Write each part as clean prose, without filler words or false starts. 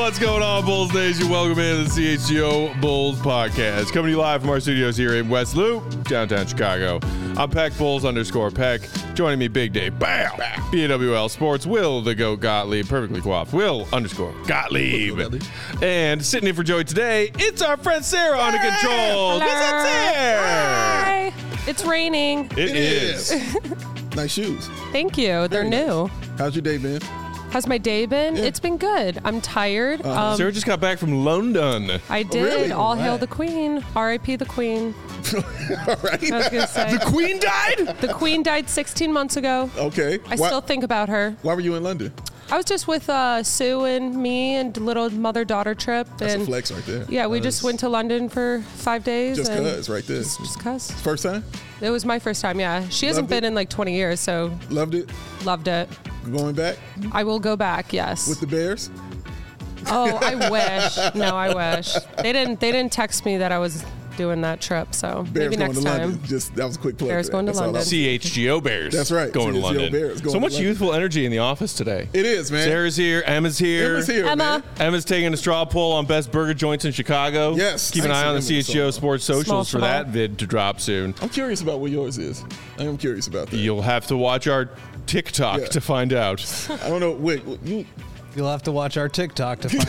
What's going on, Bulls Nation? Welcome into the CHGO Bulls podcast. Coming to you live from our studios here in West Loop, downtown Chicago. I'm Peck Bulls _Peck. Joining me, Big Dave, bam, BWL Sports, Will the Goat Gottlieb, perfectly coiffed, Will _Gottlieb. And sitting in for Joey today, it's our friend Sarah on the controls. What's up, Sarah? Hi. It's raining. It is. Nice shoes. Thank you. They're Very new. nice. How's your day been? How's my day been? Yeah. It's been good. I'm tired. Sarah just got back from London. I did. really? All hail Right. the Queen. R.I.P. the Queen. All right. I was going to say. The Queen died? The Queen died 16 months ago. Okay. I still think about her. Why were you in London? I was just with Sue and me and a little mother-daughter trip. That's and a flex right there. Yeah, we just went to London for 5 days. Just and cuz right there. Just cuz. First time? It was my first time, yeah. She hasn't Loved been it? in like 20 years, so Loved it? loved it. Going back I will go back, yes. with the Bears? Oh, I wish. No, I wish. They didn't text me that I was doing that trip, so Bears maybe going next to time. London. Just that was a quick plug. Bears for that. going to That's all I London. was- CHGO Bears. That's right. Going to CHGO London. Bears going So to much London. youthful energy in the office today. It is, man. Sarah's here. Emma's here. Emma's here, Emma. man. Emma's taking a straw poll on best burger joints in Chicago. Yes. Keep an eye on the Thanks, Emma. CHGO Sports Small socials for small. that vid to drop soon. I'm curious about what yours is. I am curious about that. You'll have to watch our TikTok Yeah. to find out. I don't know. Wait, you? You'll have to watch our TikTok to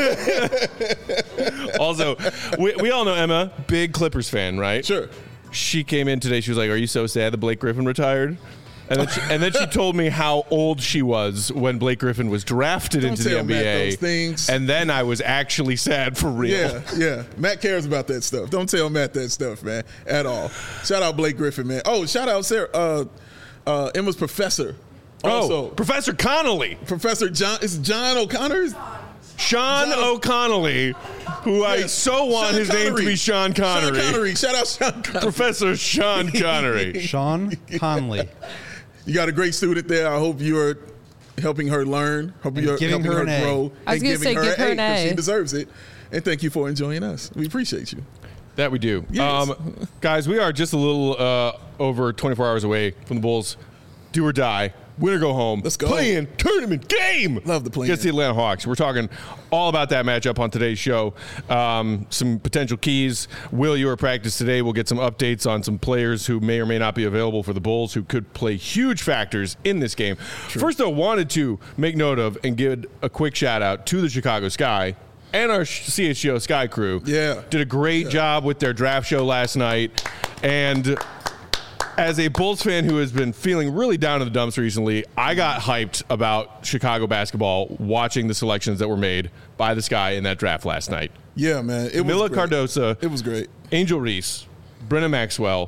find out. Also, we all know Emma, big Clippers fan, right? Sure. She came in today. She was like, "Are you so sad that Blake Griffin retired?" And then she told me how old she was when Blake Griffin was drafted Don't into the tell Matt NBA. those things. And then I was actually sad for real. Yeah, yeah. Matt cares about that stuff. Don't tell Matt that stuff, man, at all. Shout out Blake Griffin, man. Oh, shout out Sarah, Emma's professor. Also, Professor Connolly. Professor John. Is it John O'Connor? Sean O'Connolly, who I Yes. so want Sean his name to Connery. be Sean Connery. Sean Connery. Shout out Sean Connery. Professor Sean Connery. Sean Conley. You got a great student there. I hope you're helping her learn, helping her giving her an A. grow. I was and gonna say, giving give her an 'cause A. She deserves it. And thank you for enjoying us. We appreciate you. That we do. Yes. Guys, we are just a little over 24 hours away from the Bulls. Do or die. Win or go home. Let's go. Play-in tournament game. Love the play-in. Against the Atlanta Hawks. We're talking all about that matchup on today's show. Some potential keys. Will, you were at practice today. We'll get some updates on some players who may or may not be available for the Bulls who could play huge factors in this game. First, though, wanted to make note of and give a quick shout out to the Chicago Sky and our CHGO Sky crew. Yeah. Did a great job with their draft show last night. And as a Bulls fan who has been feeling really down in the dumps recently, I got hyped about Chicago basketball watching the selections that were made by the Sky in that draft last night. Yeah, man. It Mila was great. Cardosa, It was great. Angel Reese, Brennan Maxwell.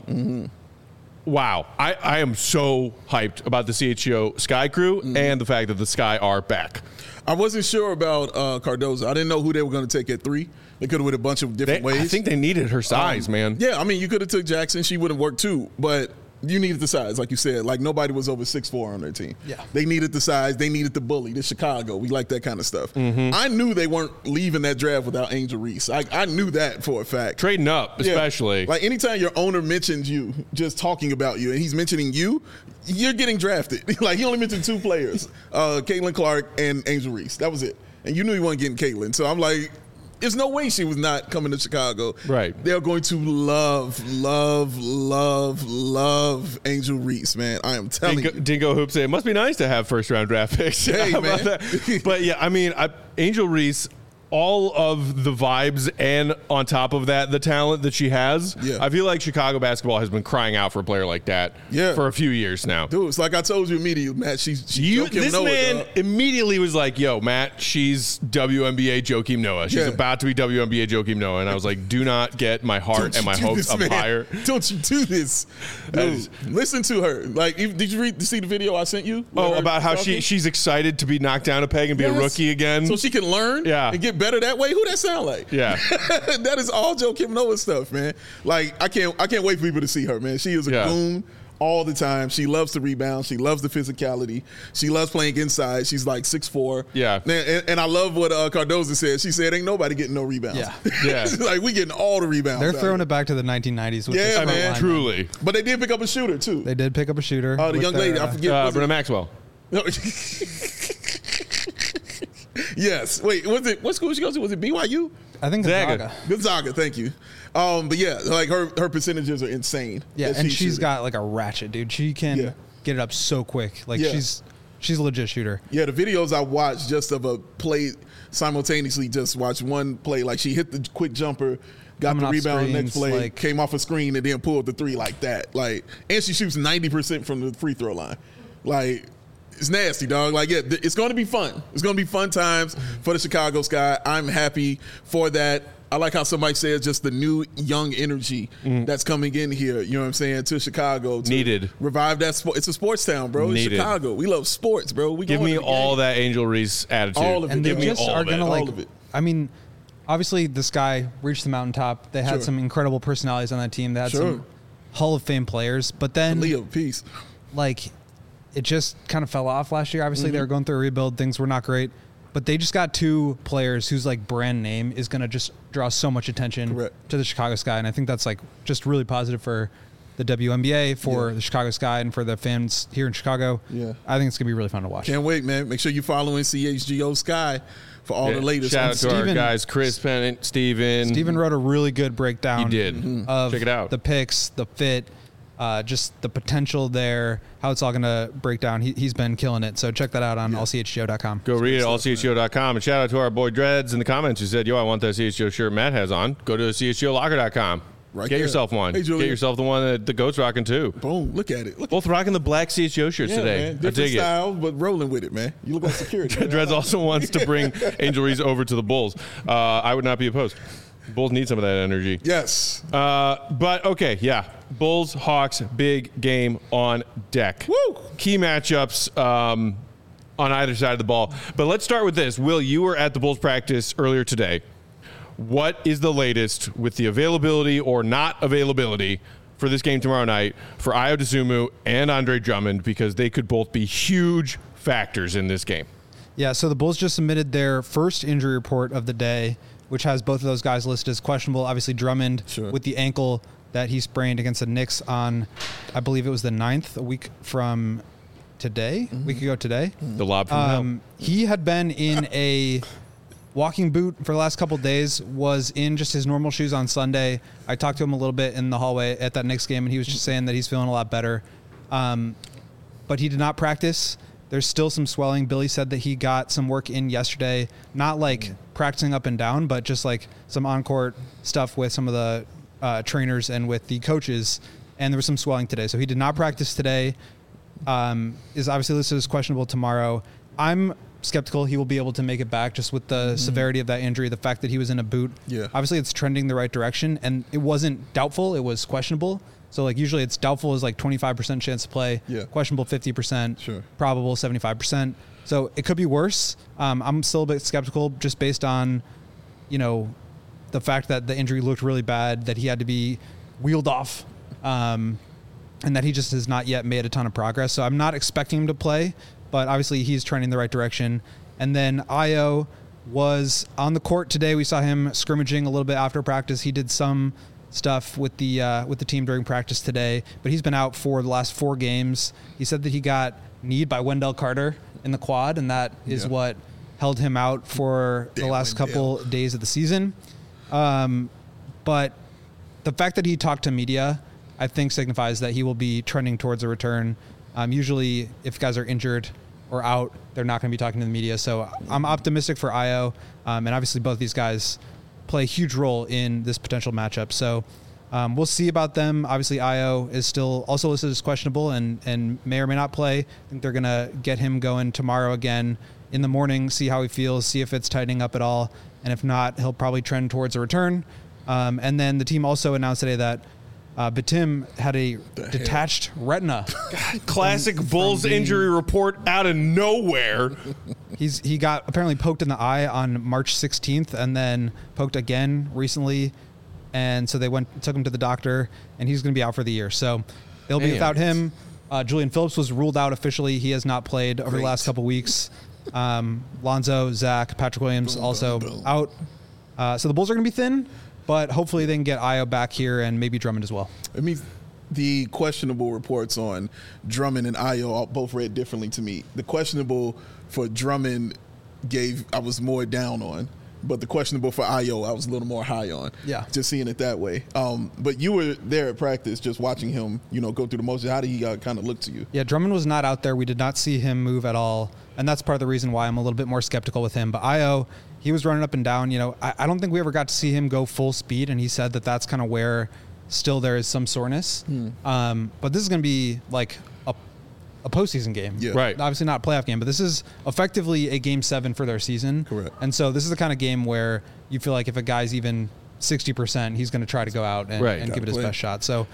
Wow. I am so hyped about the CHGO Sky crew and the fact that the Sky are back. I wasn't sure about Cardoza. I didn't know who they were going to take at 3. They could have went a bunch of different ways. I think they needed her size, man. Yeah, I mean, you could have took Jackson. She would have worked too, but you needed the size, like you said. Like, nobody was over 6'4" on their team. Yeah. They needed the size. They needed the bully, the Chicago. We like that kind of stuff. I knew they weren't leaving that draft without Angel Reese. I knew that for a fact. Trading up, Yeah. especially. Like, anytime your owner mentions you, just talking about you, and he's mentioning you, you're getting drafted. Like, he only mentioned 2 players, Caitlin Clark and Angel Reese. That was it. And you knew you weren't getting Caitlin. So I'm like, there's no way she was not coming to Chicago. Right. They're going to love Angel Reese, man. I am telling you. Dingo Hoops say it must be nice to have first round draft picks. Hey, How about man. that? But yeah, I mean, Angel Reese, all of the vibes and on top of that, the talent that she has. Yeah. I feel like Chicago basketball has been crying out for a player like that for a few years now. Dude, it's like I told you immediately, Matt. She's This man immediately was like, yo, Matt, she's WNBA Joakim Noah. She's Yeah. about to be WNBA Joakim Noah. And I was like, do not get my heart and my hopes up higher. Don't you do this. Dude, listen to her. Like, did you see the video I sent you? Oh, With her about how talking? she's excited to be knocked down a peg and be a Yes. rookie again. So she can learn Yeah. and get better that way? Who that sound like? Yeah. That is all Joakim Noah stuff, man. Like, I can't wait for people to see her, man. She is a goon all the time. She loves to rebound. She loves the physicality. She loves playing inside. She's like 6'4". Yeah. And I love what Cardoza said. She said, ain't nobody getting no rebounds. Yeah. Yeah. Like, we getting all the rebounds. They're out throwing here. it back to the 1990s. With Yeah, this front man. line. Truly. But they did pick up a shooter, too. They did pick up a shooter. The with young their, lady, I forget. was it- Brennan Maxwell. No. Yes. Wait, what school she goes to? Was it BYU? I think Gonzaga. Gonzaga, thank you. But yeah, like her percentages are insane. Yeah, that and she's she's shooting. got like a ratchet, dude. She can get it up so quick. Like Yeah. she's a legit shooter. Yeah, the videos I watched just of a play simultaneously, just watch one play. Like she hit the quick jumper, got Coming the off rebound, screens, next play, like- came off a screen, and then pulled the three like that. Like, and she shoots 90% from the free throw line. Like, it's nasty, dog. Like, yeah, it's going to be fun. It's going to be fun times for the Chicago Sky. I'm happy for that. I like how somebody says just the new young energy that's coming in here, you know what I'm saying, to Chicago. To Needed. Revive that sport. It's a sports town, bro. Needed. It's Chicago. We love sports, bro. We Give going me to the all game. that Angel Reese attitude. All of it. And they Give me just all are of it. gonna All like. of it. I mean, obviously this guy reached the mountaintop. They had Sure. some incredible personalities on that team. They had Sure. some Hall of Fame players, but then Leo, peace. like it just kind of fell off last year. Obviously, Mm-hmm. they were going through a rebuild. Things were not great, but they just got two players whose like brand name is going to just draw so much attention Correct. to the Chicago Sky, and I think that's like just really positive for the WNBA, for Yeah. the Chicago Sky, and for the fans here in Chicago. Yeah. I think it's gonna be really fun to watch. Can't wait, man. Make sure you're following CHGO Sky for all Yeah. the latest. Shout out to our Steven- guys, Chris Pennant, Steven. Steven wrote a really good breakdown. He did. Of Check it out. the picks, the fit, just the potential there, how it's all going to break down. He's been killing it. So check that out on allchgo.com. Go read it, allchgo.com. And shout out to our boy Dreads in the comments who said, yo, I want that CHGO shirt Matt has on. Go to chgolocker.com. Right Get there. yourself one. Hey, Get Julian. yourself the one that the GOAT's rocking too. Boom. Look at it. Look Both rocking the black CHGO shirts yeah, today. man. I Different dig it. styles, but rolling with it, man. You look like security. man. Dreads also wants to bring Angel Reese over to the Bulls. I would not be opposed. Bulls need some of that energy. Yes. But okay, yeah. Bulls, Hawks, big game on deck. Woo! Key matchups on either side of the ball. But let's start with this. Will, you were at the Bulls practice earlier today. What is the latest with the availability or not availability for this game tomorrow night for Ayo Dosunmu and Andre Drummond, because they could both be huge factors in this game? Yeah, so the Bulls just submitted their first injury report of the day, which has both of those guys listed as questionable. Obviously, Drummond Sure. with the ankle that he sprained against the Knicks on, I believe it was the 9th, a week from today, a week ago today. The lob from hell. He had been in a walking boot for the last couple of days, was in just his normal shoes on Sunday. I talked to him a little bit in the hallway at that Knicks game, and he was just saying that he's feeling a lot better. But he did not practice. There's still some swelling. Billy said that he got some work in yesterday, not like practicing up and down, but just like some on-court stuff with some of the trainers and with the coaches, and there was some swelling today. So he did not practice today. Is obviously listed as questionable tomorrow. I'm skeptical he will be able to make it back just with the severity of that injury, the fact that he was in a boot. Yeah. Obviously it's trending the right direction, and it wasn't doubtful, it was questionable. So like usually it's doubtful is like 25% chance to play, Yeah. questionable 50%, Sure. probable 75%. So it could be worse. I'm still a bit skeptical just based on, you know, the fact that the injury looked really bad, that he had to be wheeled off, and that he just has not yet made a ton of progress. So I'm not expecting him to play, but obviously he's trending the right direction. And then Ayo was on the court today. We saw him scrimmaging a little bit after practice. He did some stuff with the team during practice today, but he's been out for the last 4 games. He said that he got kneed by Wendell Carter in the quad, and that is what held him out for the last couple days of the season. But the fact that he talked to media, I think signifies that he will be trending towards a return. Usually if guys are injured or out, they're not going to be talking to the media. So I'm optimistic for Ayo. And obviously both these guys play a huge role in this potential matchup. So we'll see about them. Obviously Ayo is still also listed as questionable and may or may not play. I think they're going to get him going tomorrow again in the morning, see how he feels, see if it's tightening up at all. And if not, he'll probably trend towards a return. And then the team also announced today that Batum had a detached retina. Classic Bulls injury report out of nowhere. He got apparently poked in the eye on March 16th and then poked again recently. And so they took him to the doctor, and he's going to be out for the year. So they'll be without him. Julian Phillips was ruled out officially. He has not played over the last couple weeks. Lonzo, Zach, Patrick Williams also out. So the Bulls are going to be thin, but hopefully they can get Ayo back here and maybe Drummond as well. I mean, the questionable reports on Drummond and Ayo both read differently to me. The questionable for Drummond I was more down on. But the questionable for Ayo, I was a little more high on. Yeah. Just seeing it that way. But you were there at practice just watching him, go through the motions. How did he kind of look to you? Yeah, Drummond was not out there. We did not see him move at all. And that's part of the reason why I'm a little bit more skeptical with him. But Ayo, he was running up and down. I don't think we ever got to see him go full speed. And he said that that's kind of where still there is some soreness. But this is going to be like a postseason game. Yeah. Right. Obviously not a playoff game, but this is effectively a game 7 for their season. Correct. And so this is the kind of game where you feel like if a guy's even 60%, he's going to try to go out and give it his best shot. So,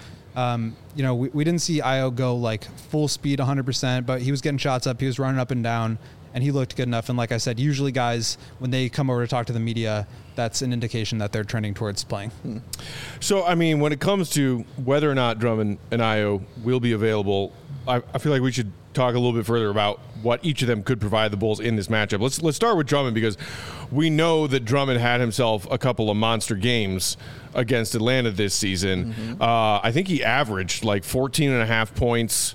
we didn't see Ayo go like full speed 100%, but he was getting shots up. He was running up and down, and he looked good enough. And like I said, usually guys, when they come over to talk to the media, that's an indication that they're trending towards playing. So, I mean, when it comes to whether or not Drummond and Ayo will be available, I feel like we should talk a little bit further about what each of them could provide the Bulls in this matchup. Let's start with Drummond, because we know that Drummond had himself a couple of monster games against Atlanta this season. I think he averaged like 14.5 points,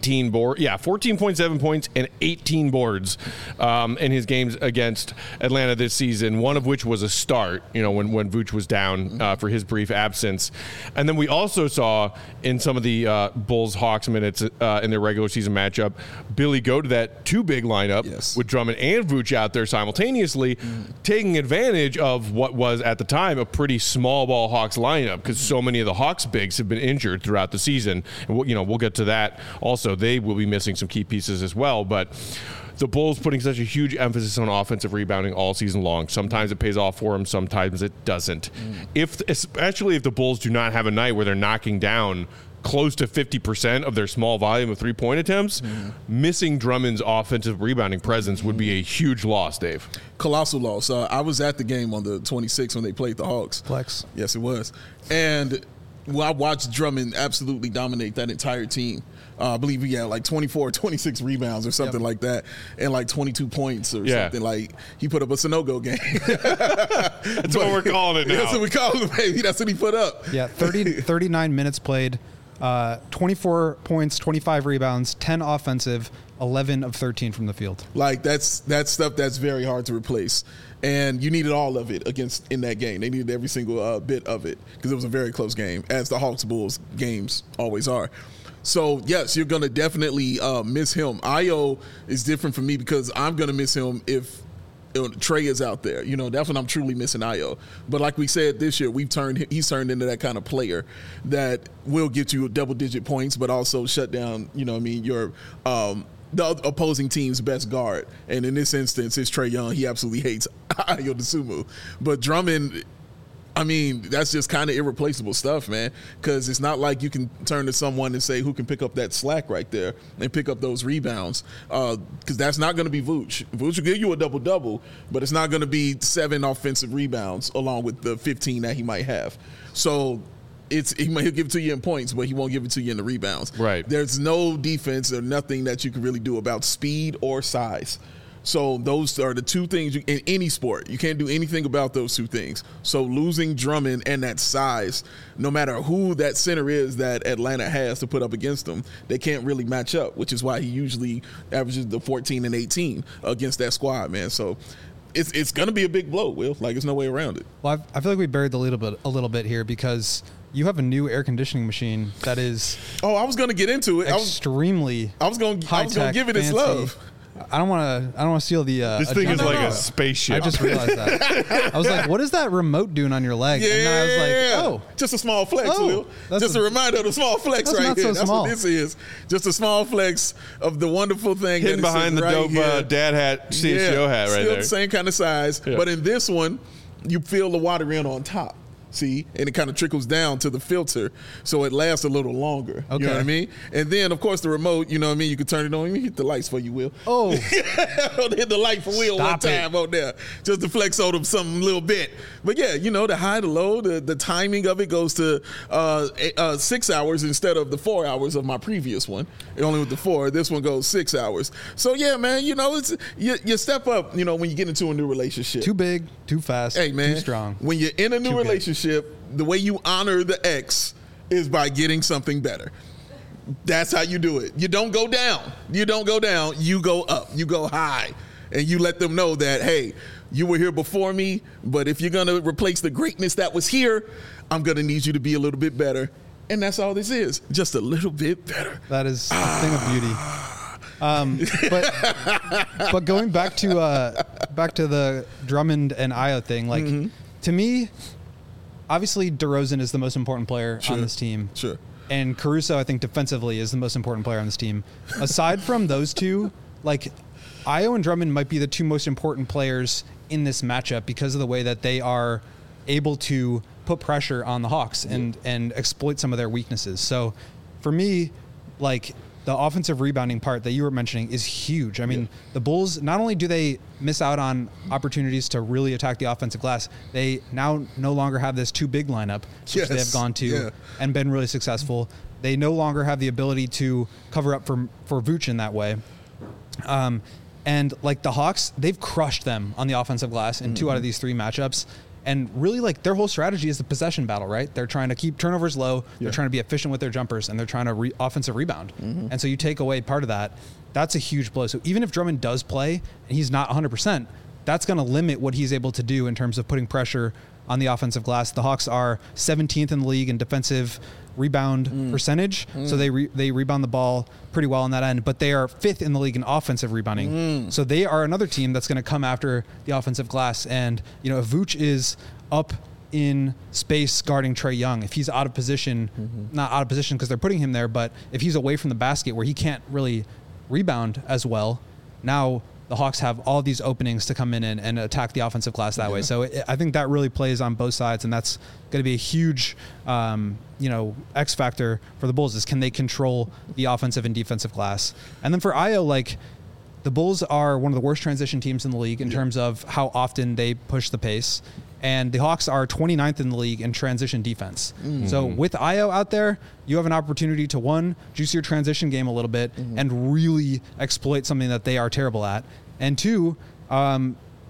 14.7 points and 18 boards in his games against Atlanta this season, one of which was a start, when Vooch was down for his brief absence. And then we also saw in some of the Bulls-Hawks minutes in their regular season matchup, Billy go to that 2-big lineup with Drummond and Vooch out there simultaneously, taking advantage of what was at the time a pretty small ball Hawks lineup, because so many of the Hawks bigs have been injured throughout the season. And we'll get to that. Also, they will be missing some key pieces as well, but the Bulls putting such a huge emphasis on offensive rebounding all season long. Sometimes it pays off for them, sometimes it doesn't. Especially if the Bulls do not have a night where they're knocking down close to 50% of their small volume of three-point attempts, missing Drummond's offensive rebounding presence would be a huge loss, Dave. Colossal loss. I was at the game on the 26th when they played the Hawks. Flex. Yes, it was. And I watched Drummond absolutely dominate that entire team. I believe he had like 24 or 26 rebounds or something like that, and like 22 points or something. Like, he put up a Sunogo game. That's what we're calling it now. That's what we call it, baby. That's what he put up. Yeah, 39 minutes played, 24 points, 25 rebounds, 10 offensive, 11 of 13 from the field. Like, that's stuff that's very hard to replace. And you needed all of it in that game. They needed every single bit of it, because it was a very close game, as the Hawks-Bulls games always are. So, yes, you're going to definitely miss him. Ayo is different for me, because I'm going to miss him if Trey is out there. That's when I'm truly missing Ayo. But like we said, this year he's turned into that kind of player that will get you double-digit points, but also shut down, your the opposing team's best guard. And in this instance, it's Trae Young. He absolutely hates Ayo Dosunmu. But Drummond, that's just kind of irreplaceable stuff, man, because it's not like you can turn to someone and say who can pick up that slack right there and pick up those rebounds, because that's not going to be Vooch. Vooch will give you a double-double, but it's not going to be 7 offensive rebounds along with the 15 that he might have. So he'll give it to you in points, but he won't give it to you in the rebounds. Right. There's no defense or nothing that you can really do about speed or size. So those are the two things in any sport. You can't do anything about those two things. So losing Drummond and that size, no matter who that center is that Atlanta has to put up against them, they can't really match up, which is why he usually averages the 14 and 18 against that squad, man. So it's going to be a big blow, Will. Like, there's no way around it. Well, I feel like we buried the lead a little bit here, because you have a new air conditioning machine that is I was going to get into it. Extremely I was going to give it its fancy. love. I don't want to steal the. This thing is agenda. like a spaceship. I just realized that. I was like, "What is that remote doing on your leg?" Yeah, and then I was like, "Oh, just a small flex, Oh, Will. that's Just a reminder of the small flex right not here. so That's small. what this is. Just a small flex of the wonderful thing hidden that is behind the right dope here. dad hat, CHGO hat right still there. the same kind of size, Yeah. but in this one, you feel the water in on top. See, and it kind of trickles down to the filter, so it lasts a little longer. Okay. You know what I mean? And then, of course, the remote, you know what I mean? You can turn it on. Let me hit the lights for you, Will. oh, Hit the light for Will Stop one time on there, just to flex on him something a little bit. But yeah, the high to low, the timing of it goes to 6 hours instead of the 4 hours of my previous one. Only with the 4, this one goes 6 hours. So yeah, man, it's you step up, when you get into a new relationship. too big, too fast, Hey man, too strong. When you're in a new Too good. relationship, the way you honor the ex is by getting something better. That's how you do it. You don't go down. You go up. You go high. and you let them know that, hey, you were here before me, but if you're going to replace the greatness that was here, I'm going to need you to be a little bit better. And that's all this is, just a little bit better. That is a thing of beauty. But going back to the Drummond and Ayo thing, like to me, obviously DeRozan is the most important player on this team. Sure. And Caruso, I think defensively is the most important player on this team. Aside from those two, like Ayo and Drummond might be the two most important players in this matchup because of the way that they are able to put pressure on the Hawks and exploit some of their weaknesses. So for me, like the offensive rebounding part that you were mentioning is huge. I mean, the Bulls, not only do they miss out on opportunities to really attack the offensive glass, they now no longer have this too big lineup, which they have gone to and been really successful. They no longer have the ability to cover up for Vooch in that way. And like the Hawks, they've crushed them on the offensive glass in 2 out of these 3 matchups. And really, like, their whole strategy is the possession battle, right? They're trying to keep turnovers low. They're trying to be efficient with their jumpers, and they're trying to offensive rebound. And so you take away part of that. That's a huge blow. So even if Drummond does play and he's not 100%, that's going to limit what he's able to do in terms of putting pressure on the offensive glass. The Hawks are 17th in the league in defensive rebound percentage. So they rebound the ball pretty well on that end, but they are 5th in the league in offensive rebounding. So they are another team that's going to come after the offensive glass. And, you know, if Vooch is up in space guarding Trae Young, if he's out of position, not out of position because they're putting him there, but if he's away from the basket where he can't really rebound as well, now the Hawks have all these openings to come in and attack the offensive glass that way. So I think that really plays on both sides, and that's going to be a huge, X factor for the Bulls is can they control the offensive and defensive glass. And then for Ayo, like the Bulls are one of the worst transition teams in the league in terms of how often they push the pace. And the Hawks are 29th in the league in transition defense. So with Ayo out there, you have an opportunity to, 1, juice your transition game a little bit and really exploit something that they are terrible at. And 2, the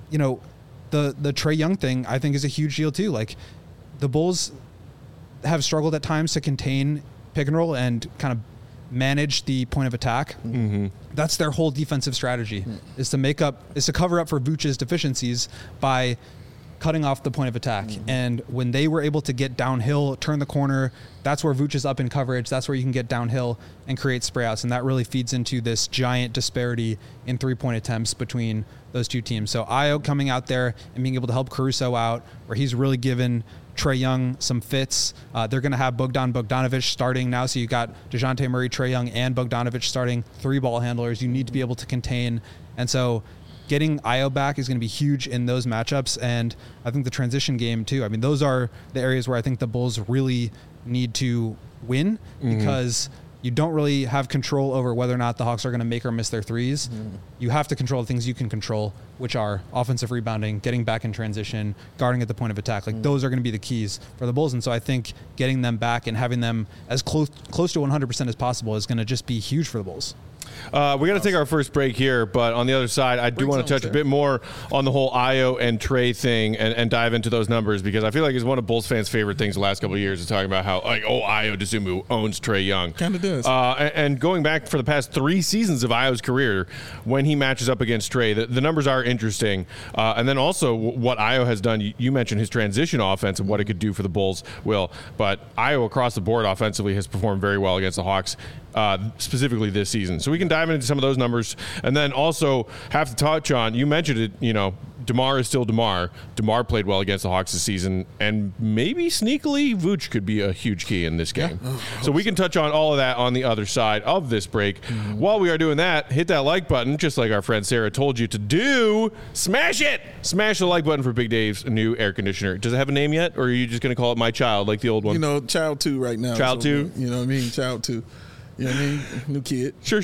Trae Young thing I think is a huge deal too. Like the Bulls have struggled at times to contain pick and roll and kind of manage the point of attack. That's their whole defensive strategy is to cover up for Vooch's deficiencies by cutting off the point of attack. And when they were able to get downhill, turn the corner, that's where Vooch is up in coverage. That's where you can get downhill and create spray outs. And that really feeds into this giant disparity in 3-point attempts between those two teams. So Ayo coming out there and being able to help Caruso out, where he's really given Trae Young some fits. They're going to have Bogdanovic starting now. So you got DeJounte Murray, Trae Young, and Bogdanovic starting 3 ball handlers. You need to be able to contain. And so getting Ayo back is going to be huge in those matchups. And I think the transition game too. I mean, those are the areas where I think the Bulls really need to win because you don't really have control over whether or not the Hawks are going to make or miss their threes. You have to control the things you can control, which are offensive rebounding, getting back in transition, guarding at the point of attack. Like those are going to be the keys for the Bulls. And so I think getting them back and having them as close to 100% as possible is going to just be huge for the Bulls. We got to take our first break here, but on the other side, I do want to touch a bit more on the whole Ayo and Trae thing and dive into those numbers because I feel like it's one of Bulls fans' favorite things the last couple of years is talking about how, Ayo Dosunmu owns Trae Young. Kind of does. And going back for the past 3 seasons of Ayo's career, when he matches up against Trae, the numbers are interesting. And then also what Ayo has done, you mentioned his transition offense and what it could do for the Bulls, Will. But Ayo across the board offensively has performed very well against the Hawks. Specifically this season. So we can dive into some of those numbers and then also have to touch on, you mentioned it, DeMar is still DeMar. DeMar played well against the Hawks this season and maybe sneakily Vooch could be a huge key in this game. So we can touch on all of that on the other side of this break. While we are doing that, hit that like button, just like our friend Sarah told you to do. Smash it! Smash the like button for Big Dave's new air conditioner. Does it have a name yet or are you just going to call it My Child like the old one? Child 2 right now. Child 2? You know what I mean? Child 2. You know what I mean? New kid. Sure.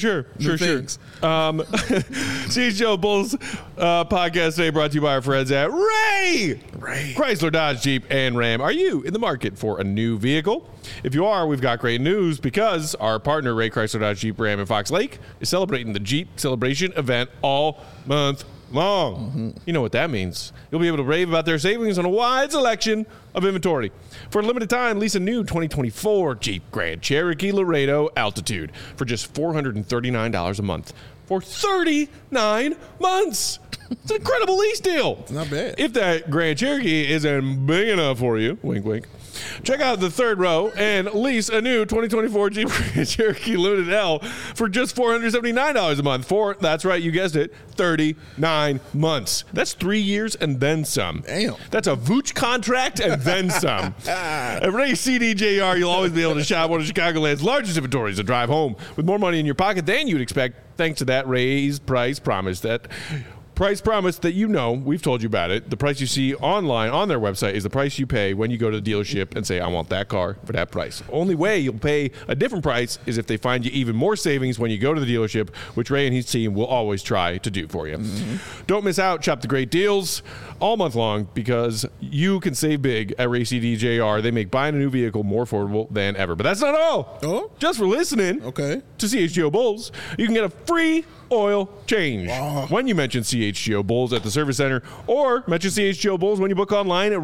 CHGO Bulls podcast today brought to you by our friends at Ray Chrysler, Dodge, Jeep, and Ram. Are you in the market for a new vehicle? If you are, we've got great news because our partner, Ray Chrysler, Dodge, Jeep, Ram, and Fox Lake, is celebrating the Jeep Celebration event all month long. You know what that means. You'll be able to rave about their savings on a wide selection of inventory. For a limited time, lease a new 2024 Jeep Grand Cherokee Laredo Altitude for just $439 a month. for 39 months. It's an incredible lease deal. It's not bad. If that Grand Cherokee isn't big enough for you, wink, wink, check out the third row and lease a new 2024 Jeep Grand Cherokee Limited L for just $479 a month for, that's right, you guessed it, 39 months. That's 3 years and then some. Damn. That's a Vooch contract and then some. At Ray CDJR, you'll always be able to shop one of Chicagoland's largest inventories and drive home with more money in your pocket than you'd expect thanks to that raised price promise that you know, we've told you about it. The price you see online on their website is the price you pay when you go to the dealership and say, I want that car for that price. Only way you'll pay a different price is if they find you even more savings when you go to the dealership, which Ray and his team will always try to do for you. Mm-hmm. Don't miss out. Shop the great deals all month long because you can save big at Ray CDJR. They make buying a new vehicle more affordable than ever. But that's not all. Oh? Just for listening to CHGO Bulls, you can get a free oil change when you mention CHGO Bulls at the service center or mention CHGO Bulls when you book online at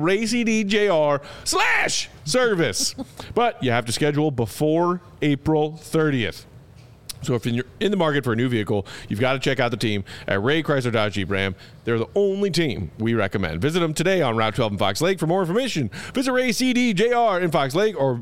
RayCDJR/service. But you have to schedule before April 30th. So if you're in the market for a new vehicle, you've got to check out the team at Ray Chrysler Dodge Jeep Ram. They're the only team we recommend. Visit them today on Route 12 in Fox Lake. For more information, visit Ray CDJR in Fox Lake or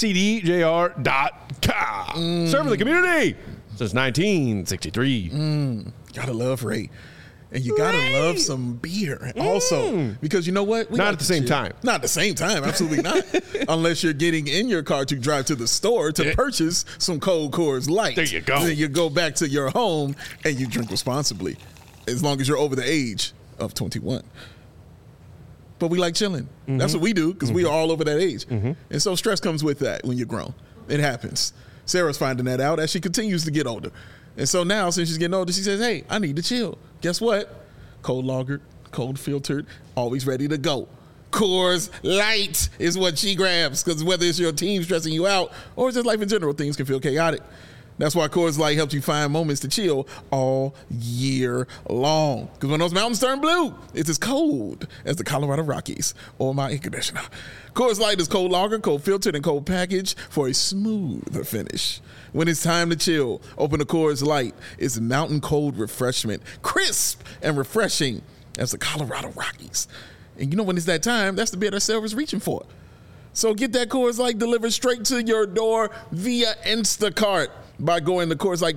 raycdjr.com. Serving the community since 1963. Gotta love Ray. And you gotta love some beer also. Because you know what? Not at the same time. Not at the same time, absolutely not. Unless you're getting in your car to drive to the store to purchase some cold Coors Light. There you go. Then you go back to your home and you drink responsibly. As long as you're over the age of 21. But we like chilling. That's what we do because we are all over that age. And so stress comes with that when you're grown. It happens. Sarah's finding that out as she continues to get older. And so now, since she's getting older, she says, hey, I need to chill. Guess what? Cold lagered, cold filtered, always ready to go. Coors Light is what she grabs because whether it's your team stressing you out or just life in general, things can feel chaotic. That's why Coors Light helps you find moments to chill all year long. Because when those mountains turn blue, it's as cold as the Colorado Rockies or my air conditioner. Coors Light is cold lager, cold filtered, and cold packaged for a smoother finish. When it's time to chill, open a Coors Light. It's mountain cold refreshment, crisp and refreshing as the Colorado Rockies. And you know when it's that time, that's the beer that Sarah's reaching for. So get that Coors Light delivered straight to your door via Instacart by going to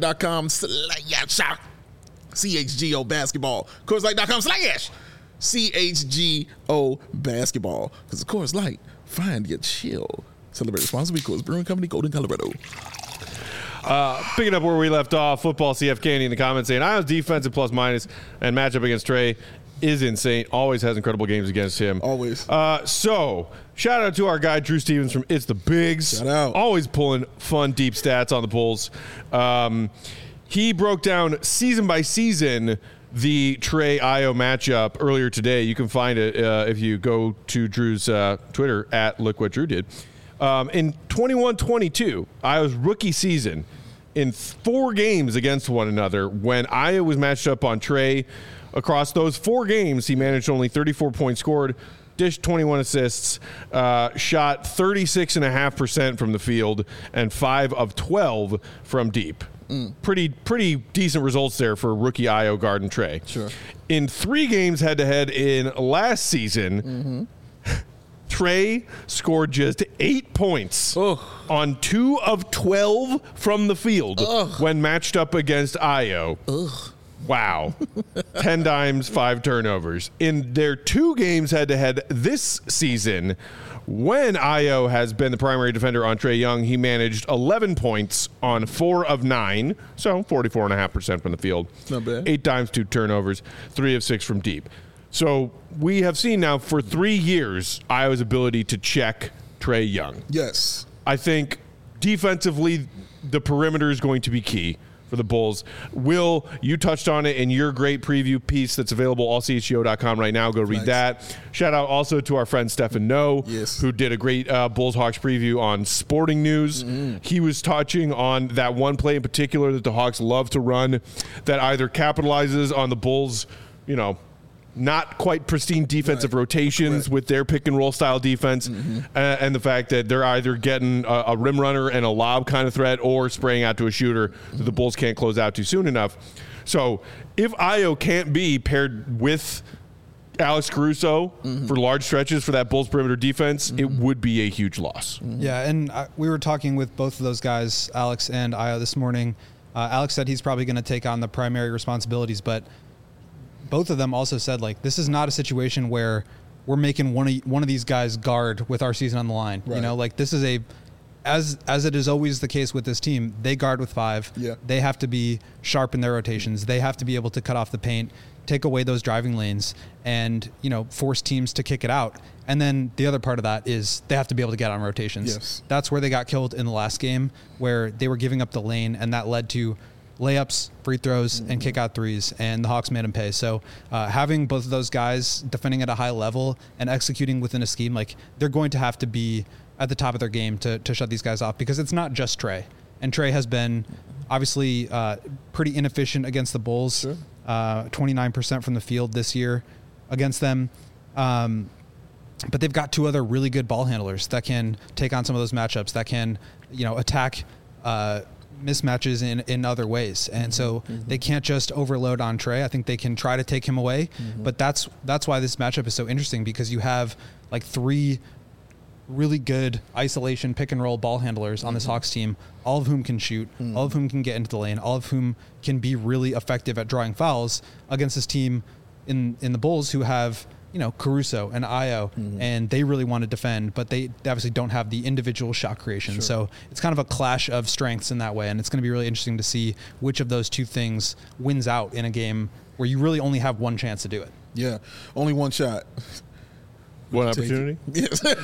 CHGO basketball. CHGO basketball. Because of Coors Light, find your chill. Celebrate responsibly. Coors Brewing Company, Golden, Colorado. Picking up where we left off, football CF Candy in the comments saying Iowa's defensive plus minus and matchup against Trey is insane. Always has incredible games against him. Always. So, shout out to our guy, Drew Stevens from It's the Bigs. Shout out. Always pulling fun, deep stats on the Bulls. He broke down season by season the Trey-Io matchup earlier today. You can find it if you go to Drew's Twitter, at Look What Drew Did. In 21-22, Iowa's rookie season, in 4 games against one another, when Iowa was matched up on Trey, across those 4 games, he managed only 34 points scored, dished 21 assists, shot 36.5% from the field, and 5 of 12 from deep. Pretty decent results there for rookie Io guard and Trey. Sure. In 3 games head-to-head in last season, Trey scored just 8 points on 2 of 12 from the field when matched up against Io. Wow. 10 dimes, 5 turnovers. In their 2 games head-to-head this season, when Io has been the primary defender on Trey Young, he managed 11 points on 4 of 9, so 44.5% from the field. Not bad. 8 dimes, 2 turnovers, 3 of 6 from deep. So we have seen now for 3 years Iowa's ability to check Trey Young. Yes. I think defensively the perimeter is going to be key for the Bulls. Will, you touched on it in your great preview piece that's available allchgo.com right now. Go read that. Shout out also to our friend Stefan Noe, who did a great Bulls Hawks preview on Sporting News. He was touching on that one play in particular that the Hawks love to run that either capitalizes on the Bulls, not quite pristine defensive rotations with their pick and roll style defense, and the fact that they're either getting a rim runner and a lob kind of threat or spraying out to a shooter that the Bulls can't close out too soon enough. So if Ayo can't be paired with Alex Caruso for large stretches for that Bulls perimeter defense, it would be a huge loss. Yeah, and we were talking with both of those guys, Alex and Ayo, this morning. Alex said he's probably going to take on the primary responsibilities, but both of them also said, like, this is not a situation where we're making one of these guys guard with our season on the line. Right. You know, like, this is as it is always the case with this team, they guard with 5. Yeah. They have to be sharp in their rotations. They have to be able to cut off the paint, take away those driving lanes, and, you know, force teams to kick it out. And then the other part of that is they have to be able to get on rotations. Yes. That's where they got killed in the last game, where they were giving up the lane, and that led to layups, free throws, and kick out threes, and the Hawks made them pay. So having both of those guys defending at a high level and executing within a scheme, like, they're going to have to be at the top of their game to shut these guys off, because it's not just Trey. And Trey has been obviously pretty inefficient against the Bulls. Sure. 29% from the field this year against them. But they've got 2 other really good ball handlers that can take on some of those matchups, that can, you know, attack mismatches in other ways. And so they can't just overload on Trey. I think they can try to take him away. But that's why this matchup is so interesting, because you have like 3 really good isolation pick and roll ball handlers on this Hawks team, all of whom can shoot, all of whom can get into the lane, all of whom can be really effective at drawing fouls against this team in the Bulls, who have, you know, Caruso and Ayo, and they really want to defend, but they obviously don't have the individual shot creation. Sure. So it's kind of a clash of strengths in that way, and it's going to be really interesting to see which of those 2 things wins out in a game where you really only have one chance to do it. Yeah, only one shot. One opportunity? Yes. Go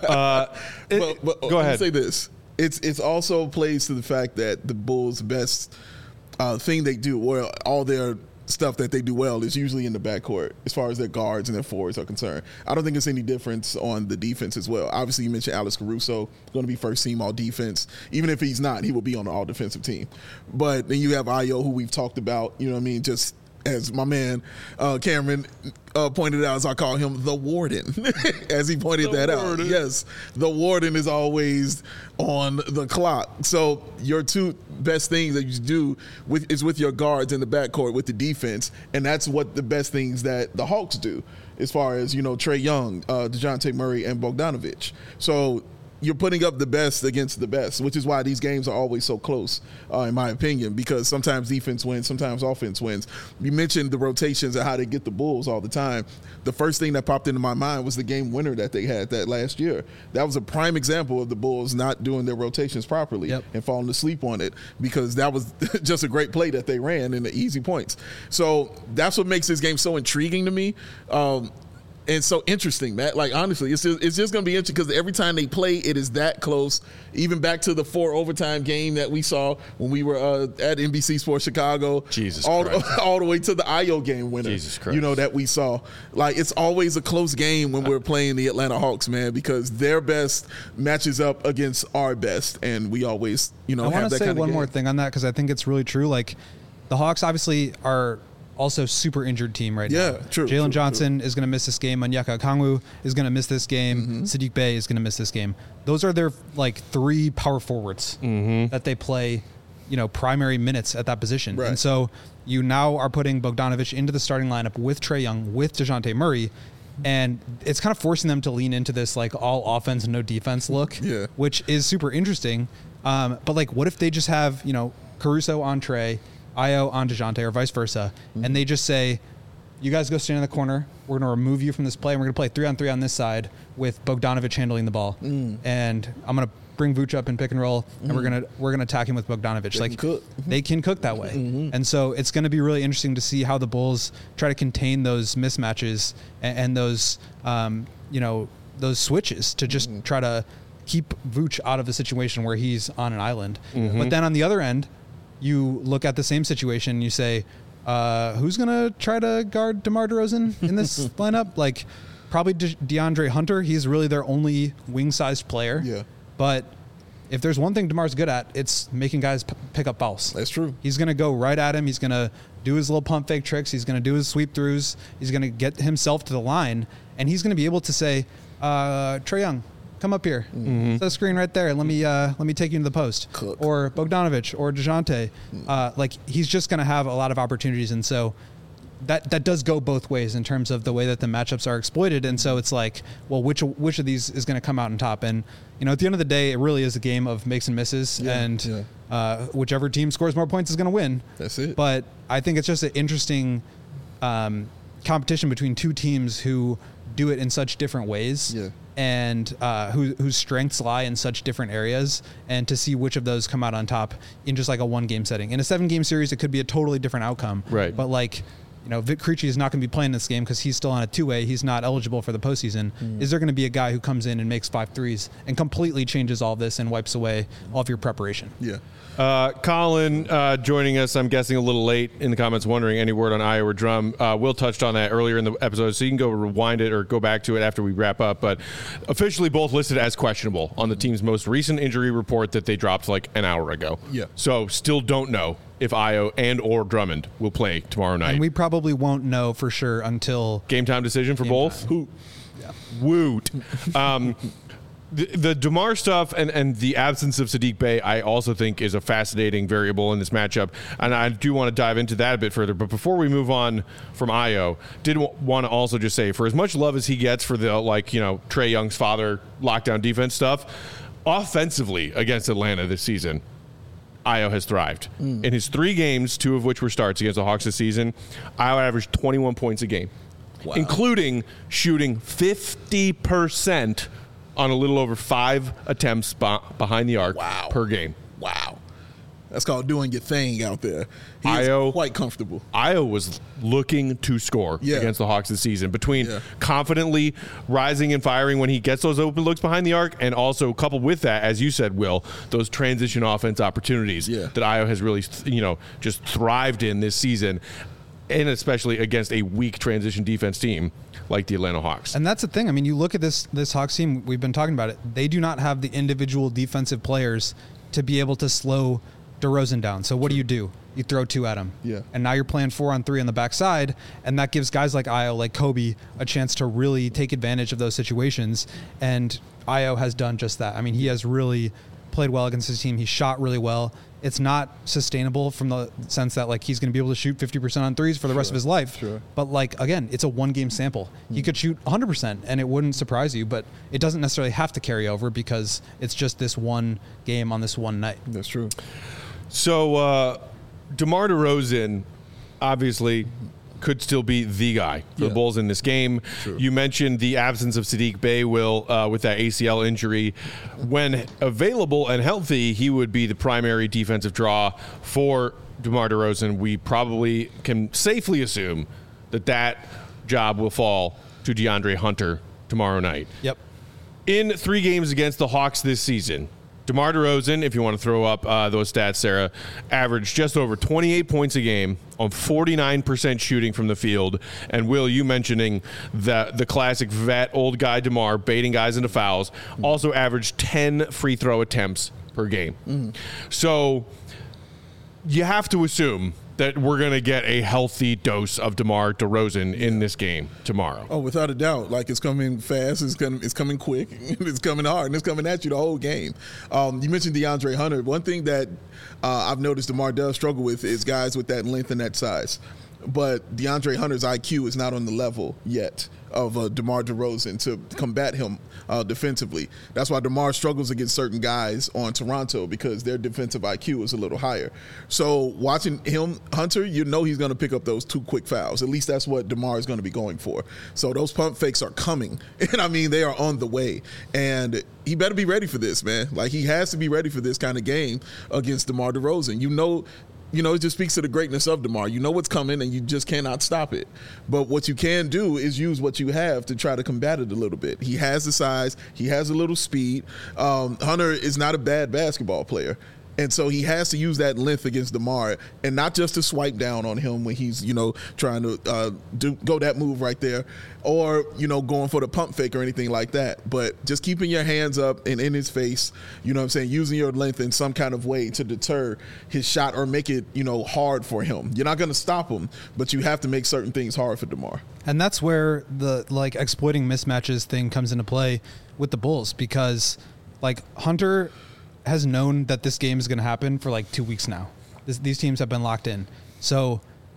Let me ahead. say this. It's also plays to the fact that the Bulls' best thing they do well, all their stuff that they do well, is usually in the backcourt as far as their guards and their forwards are concerned. I don't think it's any difference on the defense as well. Obviously, you mentioned Alex Caruso, going to be first team all defense. Even if he's not, he will be on the all defensive team. But then you have Ayo, who we've talked about, you know what I mean, just as my man Cameron pointed out, as I call him, the warden, as he pointed that out. Yes, the warden is always on the clock. So your 2 best things that you do is with your guards in the backcourt with the defense, and that's what the best things that the Hawks do as far as, you know, Trae Young, DeJounte Murray, and Bogdanović. So you're putting up the best against the best, which is why these games are always so close, in my opinion, because sometimes defense wins, sometimes offense wins. You mentioned the rotations and how they get the Bulls all the time. The first thing that popped into my mind was the game winner that they had that last year. That was a prime example of the Bulls not doing their rotations properly and falling asleep on it, because that was just a great play that they ran in the easy points. So that's what makes this game so intriguing to me. And so interesting, Matt. Like, honestly, it's just going to be interesting, because every time they play, it is that close. Even back to the 4 overtime game that we saw when we were at NBC Sports Chicago. Jesus all the way to the Ayo game winner. Jesus Christ. You know, that we saw. Like, it's always a close game when we're playing the Atlanta Hawks, man, because their best matches up against our best, and we always, you know, I have want that to say kind of one game. more thing on that, because I think it's really true. Like, the Hawks obviously are also super injured team right now. Yeah, true. Jalen Johnson is going to miss this game. Onyeka Okongwu is going to miss this game. Sadiq Bey is going to miss this game. Those are their, like, 3 power forwards that they play, you know, primary minutes at that position. Right. And so you now are putting Bogdanović into the starting lineup with Trae Young, with DeJounte Murray, and it's kind of forcing them to lean into this, like, all offense and no defense look, which is super interesting. But, like, what if they just have, you know, Caruso on Trae, Ayo on DeJounte, or vice versa, and they just say, you guys go stand in the corner, we're going to remove you from this play, and we're going to play 3-on-3 on this side with Bogdanović handling the ball, and I'm going to bring Vooch up in pick and roll, and we're gonna attack him with Bogdanović. They can cook that way, and so it's going to be really interesting to see how the Bulls try to contain those mismatches and those you know, those switches to just try to keep Vooch out of the situation where he's on an island. But then on the other end, you look at the same situation and you say, who's going to try to guard DeMar DeRozan in this lineup? Like, probably DeAndre Hunter. He's really their only wing-sized player. Yeah. But if there's one thing DeMar's good at, it's making guys pick up fouls. That's true. He's going to go right at him. He's going to do his little pump fake tricks. He's going to do his sweep throughs. He's going to get himself to the line, and he's going to be able to say, Trae Young, come up here. Set the screen right there. Let me take you into the post. Cook. Or Bogdanovich or DeJounte. Like, he's just going to have a lot of opportunities, and so that does go both ways in terms of the way that the matchups are exploited. And so it's like, well, which of these is going to come out on top? And, at the end of the day, it really is a game of makes and misses, and whichever team scores more points is going to win. That's it. But I think it's just an interesting competition between two teams who do it in such different ways. Yeah. And whose strengths lie in such different areas, and to see which of those come out on top in just like a 1-game setting. In a 7-game series, it could be a totally different outcome. Right. But like, Vic Krejci is not going to be playing this game because he's still on a 2-way. He's not eligible for the postseason. Is there going to be a guy who comes in and makes 5 threes and completely changes all this and wipes away all of your preparation? Yeah. Colin joining us, I'm guessing a little late in the comments, wondering any word on Ayo or Drum. Will touched on that earlier in the episode, so you can go rewind it or go back to it after we wrap up. But officially both listed as questionable on the team's most recent injury report that they dropped like an hour ago. Yeah. So still don't know if Ayo and or Drummond will play tomorrow night. And we probably won't know for sure until Game time decision for both? Who? Woot. The DeMar stuff and the absence of Saddiq Bey, I also think is a fascinating variable in this matchup, and I do want to dive into that a bit further. But before we move on from Ayo, did want to also just say, for as much love as he gets for the Trae Young's father lockdown defense stuff, offensively against Atlanta this season, Ayo has thrived. In his 3 games, 2 of which were starts against the Hawks this season, Ayo averaged 21 points a game, including shooting 50% on a little over 5 attempts behind the arc per game. Wow. That's called doing your thing out there. He's quite comfortable. Ayo was looking to score against the Hawks this season, between confidently rising and firing when he gets those open looks behind the arc, and also coupled with that, as you said, Will, those transition offense opportunities that Ayo has really, just thrived in this season, and especially against a weak transition defense team like the Atlanta Hawks. And that's the thing. I mean, you look at this Hawks team, we've been talking about it. They do not have the individual defensive players to be able to slow DeRozan down. So what do? You throw 2 at him. Yeah. And now you're playing 4-on-3 on the backside, and that gives guys like Ayo, like Kobe, a chance to really take advantage of those situations. And Ayo has done just that. I mean, he has really played well against his team. He shot really well. It's not sustainable from the sense that like he's going to be able to shoot 50% on threes for the rest of his life. Sure. But like, again, it's a 1-game sample. He could shoot 100% and it wouldn't surprise you, but it doesn't necessarily have to carry over because it's just this 1 game on this 1 night. That's true. So DeMar DeRozan obviously could still be the guy for the Bulls in this game. True. You mentioned the absence of Saddiq Bey, Will, with that ACL injury. When available and healthy, he would be the primary defensive draw for DeMar DeRozan. We probably can safely assume that job will fall to DeAndre Hunter tomorrow night. Yep. In 3 games against the Hawks this season, DeMar DeRozan, if you want to throw up those stats, Sarah, averaged just over 28 points a game on 49% shooting from the field. And Will, you mentioning the classic vet, old guy DeMar baiting guys into fouls, also averaged 10 free throw attempts per game. So you have to assume that we're going to get a healthy dose of DeMar DeRozan in this game tomorrow. Oh, without a doubt. Like, it's coming fast, it's coming quick, it's coming hard, and it's coming at you the whole game. You mentioned DeAndre Hunter. One thing that I've noticed DeMar does struggle with is guys with that length and that size. But DeAndre Hunter's IQ is not on the level yet of DeMar DeRozan to combat him defensively. That's why DeMar struggles against certain guys on Toronto, because their defensive IQ is a little higher. So watching him, Hunter, you know he's going to pick up those 2 quick fouls. At least that's what DeMar is going to be going for. So those pump fakes are coming. And, I mean, they are on the way. And he better be ready for this, man. Like, he has to be ready for this kind of game against DeMar DeRozan. It just speaks to the greatness of DeMar. You know what's coming, and you just cannot stop it. But what you can do is use what you have to try to combat it a little bit. He has the size. He has a little speed. Hunter is not a bad basketball player. And so he has to use that length against DeMar, and not just to swipe down on him when he's, trying to go that move right there, or, going for the pump fake or anything like that. But just keeping your hands up and in his face, using your length in some kind of way to deter his shot or make it, hard for him. You're not going to stop him, but you have to make certain things hard for DeMar. And that's where the exploiting mismatches thing comes into play with the Bulls, because Hunter has known that this game is going to happen for 2 weeks now. These teams have been locked in. So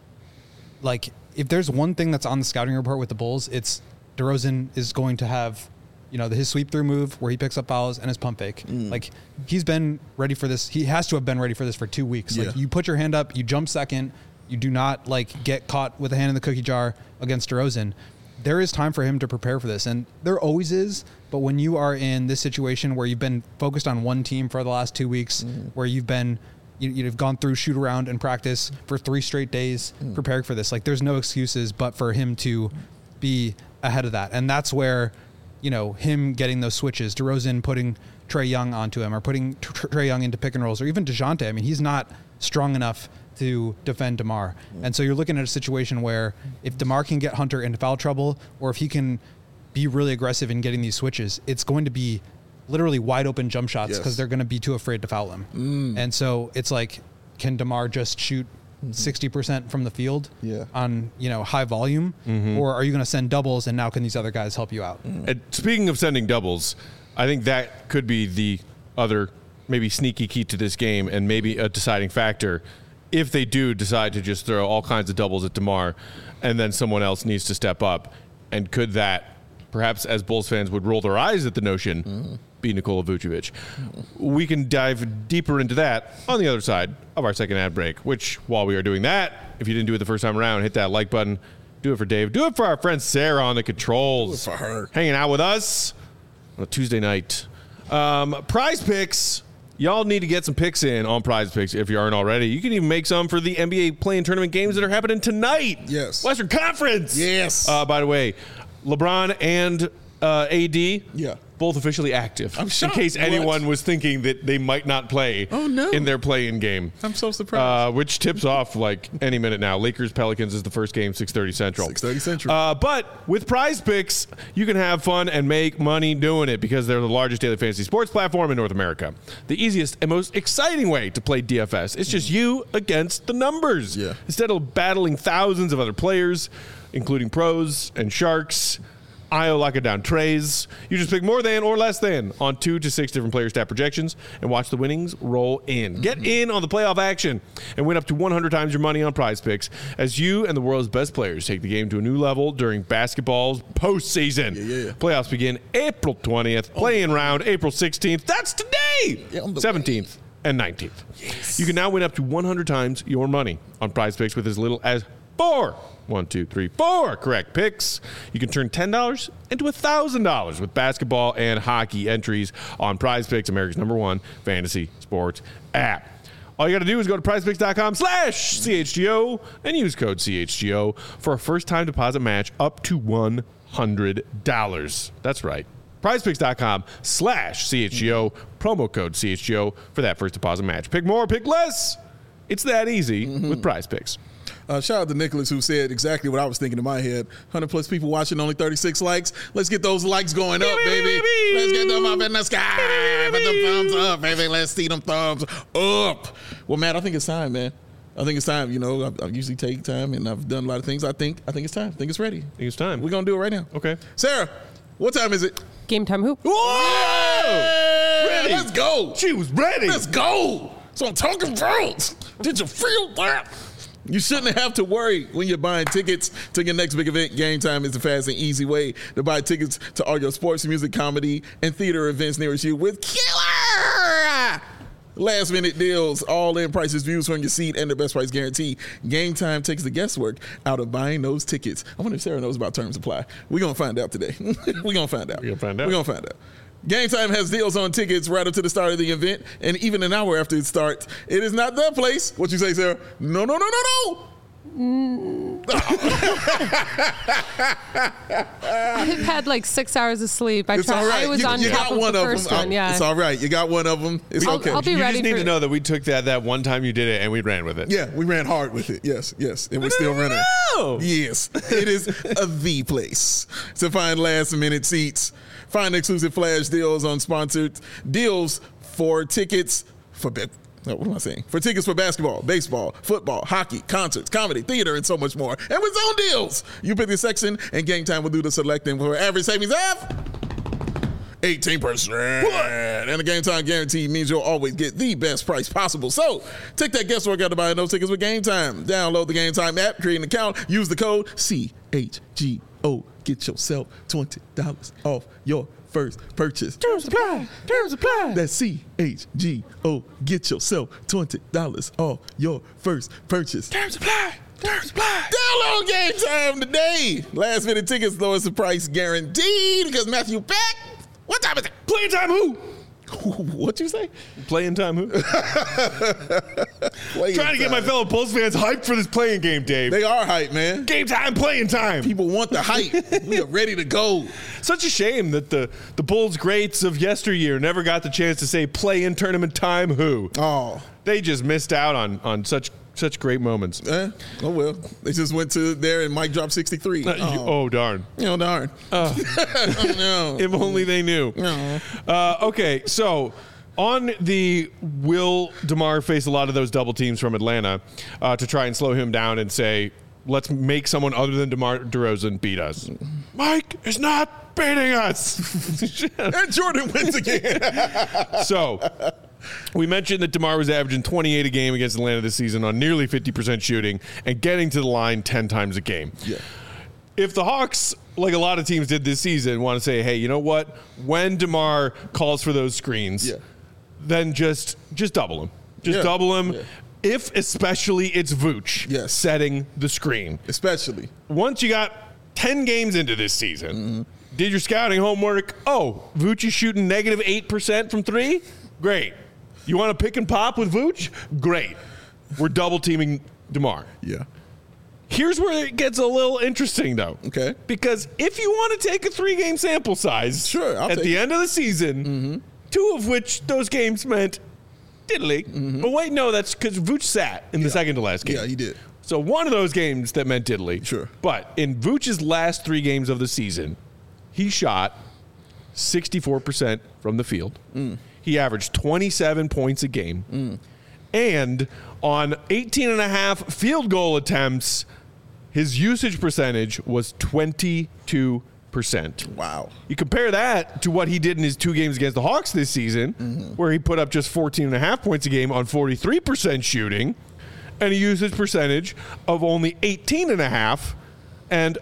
if there's one thing that's on the scouting report with the Bulls, it's DeRozan is going to have, his sweep through move where he picks up fouls and his pump fake. He's been ready for this. He has to have been ready for this for 2 weeks. Yeah. You put your hand up, you jump second, you do not get caught with a hand in the cookie jar against DeRozan. There is time for him to prepare for this, and there always is. But when you are in this situation where you've been focused on one team for the last 2 weeks, where you've been, you've gone through shoot around and practice for 3 straight days preparing for this, there's no excuses but for him to be ahead of that. And that's where, him getting those switches, DeRozan putting Trae Young onto him, or putting Trae Young into pick and rolls, or even DeJounte. I mean, he's not strong enough to defend DeMar. And so you're looking at a situation where if DeMar can get Hunter into foul trouble, or if he can be really aggressive in getting these switches, it's going to be literally wide open jump shots because they're going to be too afraid to foul him. And so it's can DeMar just shoot 60% from the field on, high volume, or are you going to send doubles, and now can these other guys help you out? And speaking of sending doubles, I think that could be the other maybe sneaky key to this game, and maybe a deciding factor if they do decide to just throw all kinds of doubles at DeMar, and then someone else needs to step up. And could that, perhaps as Bulls fans would roll their eyes at the notion, be Nikola Vucevic? We can dive deeper into that on the other side of our second ad break, which, while we are doing that, if you didn't do it the first time around, hit that like button. Do it for Dave. Do it for our friend Sarah on the controls. Do it for her. Hanging out with us on a Tuesday night. Prize Picks. Y'all need to get some picks in on Prize Picks if you aren't already. You can even make some for the NBA play-in tournament games that are happening tonight. Yes. Western Conference. Yes. By the way, LeBron and AD, both officially active. I'm shocked. In case anyone was thinking that they might not play in their play-in game. I'm so surprised. Which tips off any minute now. Lakers-Pelicans is the first game, 6:30 Central. 6:30 Central. But with Prize Picks, you can have fun and make money doing it because they're the largest daily fantasy sports platform in North America. The easiest and most exciting way to play DFS. It's just you against the numbers. Yeah. Instead of battling thousands of other players, including pros and sharks, IO lock it down trays. You just pick more than or less than on 2 to 6 different player stat projections and watch the winnings roll in. Get in on the playoff action and win up to 100 times your money on Prize Picks as you and the world's best players take the game to a new level during basketball's postseason. Playoffs begin April 20th. Play-in round April 16th. That's today. 17th and 19th. You can now win up to 100 times your money on Prize Picks with as little as 4 correct picks. You can turn $10 into $1,000 with basketball and hockey entries on Prize Picks, America's #1 fantasy sports app. All you got to do is go to prizepicks.com/CHGO and use code CHGO for a first-time deposit match up to $100. That's right. prizepicks.com/CHGO, promo code CHGO for that first deposit match. Pick more, pick less. It's that easy with Prize Picks. Shout out to Nicholas, who said exactly what I was thinking in my head. 100 plus people watching, only 36 likes. Let's get those likes going up, baby. Let's get them up in the sky. Put them thumbs up, baby. Let's see them thumbs up. Well, Matt, I think it's time, man. I think it's time. I usually take time, and I've done a lot of things. I think it's time. I think it's ready. I think it's time. We're going to do it right now. Okay. Sarah, what time is it? Game time hoop. Whoa! Ready. Let's go. She was ready. Let's go. So I'm talking about. Did you feel that? You shouldn't have to worry when you're buying tickets to your next big event. Game Time is the fast and easy way to buy tickets to all your sports, music, comedy, and theater events nearest you with killer last-minute deals, all-in prices, views from your seat, and the best price guarantee. Game Time takes the guesswork out of buying those tickets. I wonder if Sarah knows about terms apply. We're going to find out today. We're going to find out. Game Time has deals on tickets right up to the start of the event, and even an hour after it starts. It is not the place. What you say, Sarah? No. I've had like 6 hours of sleep. It's all right. I was on top of the first one. Yeah. It's all right. You got one of them. It's okay. I'll be You ready just need for to know that we took that one time you did it and we ran with it. Yeah, we ran hard with it. Yes. And we're still running. No. Yes. It is the place to find last-minute seats. Find exclusive flash deals on sponsored deals for tickets for what am I saying? For tickets for basketball, baseball, football, hockey, concerts, comedy, theater, and so much more. And with Zone Deals, you pick the section, and Game Time will do the selecting for average savings of 18%. And the Game Time guarantee means you'll always get the best price possible. So take that guesswork out of buying those tickets with Game Time. Download the Game Time app, create an account, use the code CHGO. Get yourself $20 off your first purchase. Terms apply. That's CHGO. Get yourself $20 off your first purchase. Terms apply. Download Game Time today. Last minute tickets, lowest the price guaranteed because Matthew back. What time is it? Playing time who? What'd you say? Playing time who? Playing Trying to get my time. fellow Bulls fans hyped for this playing game, Dave. They are hype, man. Game time, playing time. People want the hype. We are ready to go. Such a shame that the Bulls greats of yesteryear never got the chance to say play-in tournament time who. Oh. They just missed out on such great moments. Oh, well. They just went to there and Mike dropped 63. Oh, darn. Darn. No. If only they knew. No. Okay, so on the will DeMar face a lot of those double teams from Atlanta to try and slow him down and say, let's make someone other than DeMar DeRozan beat us. Mike is not beating us. And Jordan wins again. So we mentioned that DeMar was averaging 28 a game against Atlanta this season on nearly 50% shooting and getting to the line 10 times a game. Yeah. If the Hawks, like a lot of teams did this season, want to say, hey, you know what? When DeMar calls for those screens, then just double him. Double him. Yeah. If especially it's Vooch setting the screen. Especially. Once you got 10 games into this season, did your scouting homework? Oh, Vooch is shooting negative 8% from three? Great. You want to pick and pop with Vooch? Great. We're double teaming DeMar. Yeah. Here's where it gets a little interesting, though. Okay. Because if you want to take a 3-game sample size at the end of the season, 2 of which those games meant diddly. But wait, no, that's because Vooch sat in the second to last game. Yeah, he did. So one of those games that meant diddly. Sure. But in Vooch's last 3 games of the season, he shot 64% from the field. He averaged 27 points a game. And on 18.5 field goal attempts, his usage percentage was 22%. Wow. You compare that to what he did in his 2 games against the Hawks this season, where he put up just 14.5 points a game on 43% shooting and a usage percentage of only 18.5 and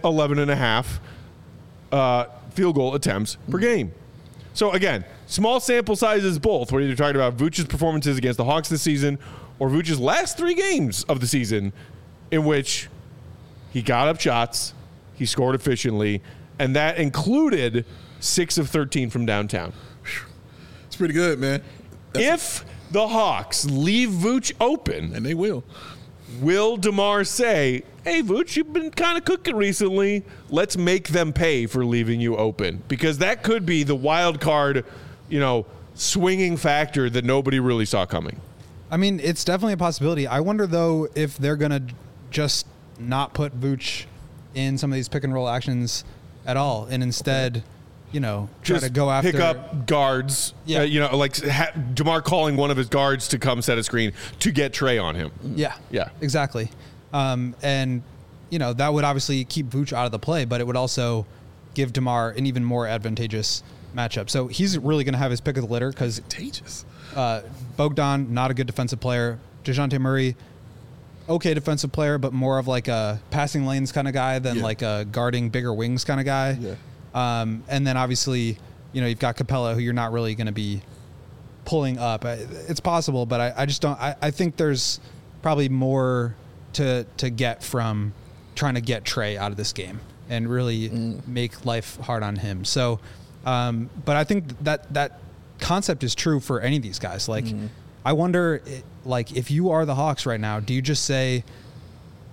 11.5 field goal attempts per game. So again, small sample sizes both, where you're talking about Vooch's performances against the Hawks this season or Vooch's last 3 games of the season in which he got up shots, he scored efficiently, and that included 6 of 13 from downtown. It's pretty good, man. If the Hawks leave Vooch open, And they will DeMar say, hey, Vooch, you've been kind of cooking recently. Let's make them pay for leaving you open? Because that could be the wild card, swinging factor that nobody really saw coming. I mean, it's definitely a possibility. I wonder, though, if they're going to just not put Vooch in some of these pick and roll actions at all and instead, try just to go after. Pick up guards. Yeah. DeMar calling one of his guards to come set a screen to get Trey on him. Yeah. Yeah. Exactly. And, that would obviously keep Vooch out of the play, but it would also give DeMar an even more advantageous matchup. So he's really going to have his pick of the litter because Bogdan, not a good defensive player. DeJounte Murray, okay defensive player, but more of like a passing lanes kind of guy than like a guarding bigger wings kind of guy. Yeah. And then obviously, you've got Capella, who you're not really going to be pulling up. It's possible, but I just don't. I think there's probably more to get from trying to get Trey out of this game and really make life hard on him. So, but I think that concept is true for any of these guys. Like, I wonder, if you are the Hawks right now, do you just say,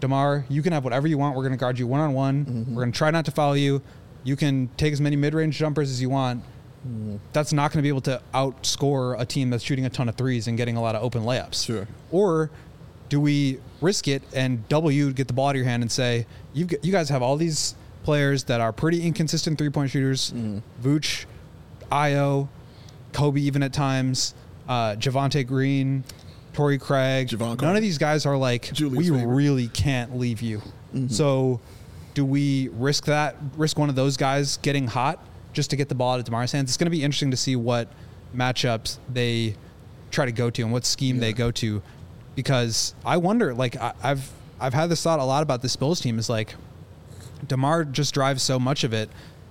DeMar, you can have whatever you want. We're going to guard you one-on-one. We're going to try not to foul you. You can take as many mid-range jumpers as you want. That's not going to be able to outscore a team that's shooting a ton of threes and getting a lot of open layups. Sure. Or do we risk it and double you, get the ball out of your hand and say, you guys have all these players that are pretty inconsistent three-point shooters, Vooch, Io, Kobe even at times, Javonte Green, Torrey Craig. Javon None of these guys are like, Julius we favorite. really can't leave you. So do we risk one of those guys getting hot just to get the ball out of DeMar's hands? It's going to be interesting to see what matchups they try to go to and what scheme they go to, because I wonder, like, I've had this thought a lot about this Bulls team, is like, DeMar just drives so much of it,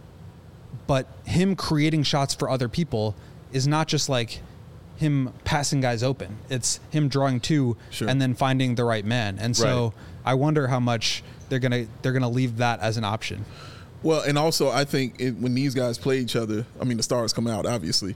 but him creating shots for other people is not just like him passing guys open. It's him drawing two and then finding the right man. And so I wonder how much they're gonna leave that as an option. Well, and also I think when these guys play each other, I mean the stars come out obviously,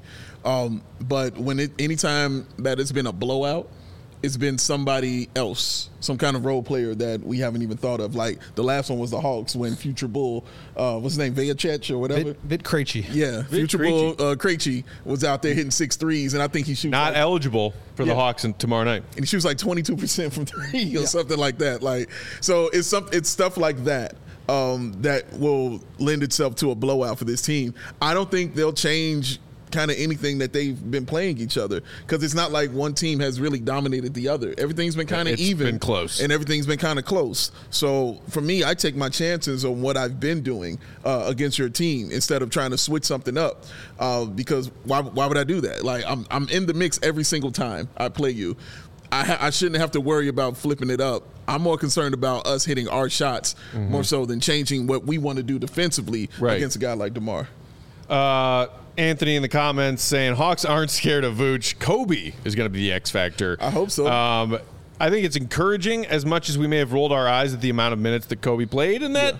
but anytime that it's been a blowout, it's been somebody else, some kind of role player that we haven't even thought of. Like the last one was the Hawks when Future Bull, what's his name, Vajicic or whatever? Vit Krejci. Yeah, Future Bull Krejci was out there hitting 6 threes, and I think he shoots Not eligible for the Hawks tomorrow night. and he shoots like 22% from three or something like that. Like, so it's stuff like that. That will lend itself to a blowout for this team. I don't think they'll change kind of anything that they've been playing each other, because it's not like one team has really dominated the other. Everything's been kind of even. It's been close. And everything's been kind of close. So for me, I take my chances on what I've been doing against your team instead of trying to switch something up, because why would I do that? Like, I'm in the mix every single time I play you. I shouldn't have to worry about flipping it up. I'm more concerned about us hitting our shots more so than changing what we want to do defensively against a guy like DeMar. Anthony in the comments saying Hawks aren't scared of Vooch. Kobe is going to be the X factor. I hope so. I think it's encouraging, as much as we may have rolled our eyes at the amount of minutes that Kobe played in that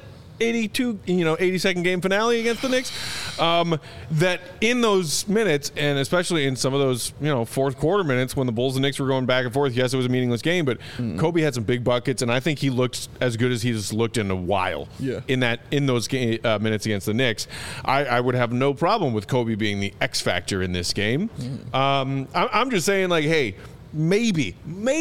82-second game finale against the Knicks, that in those minutes, and especially in some of those fourth quarter minutes when the Bulls and Knicks were going back and forth, yes, it was a meaningless game, but Kobe had some big buckets, and I think he looked as good as he's looked in a while. In those minutes against the Knicks. I would have no problem with Kobe being the X factor in this game. I'm just saying, like, hey, maybe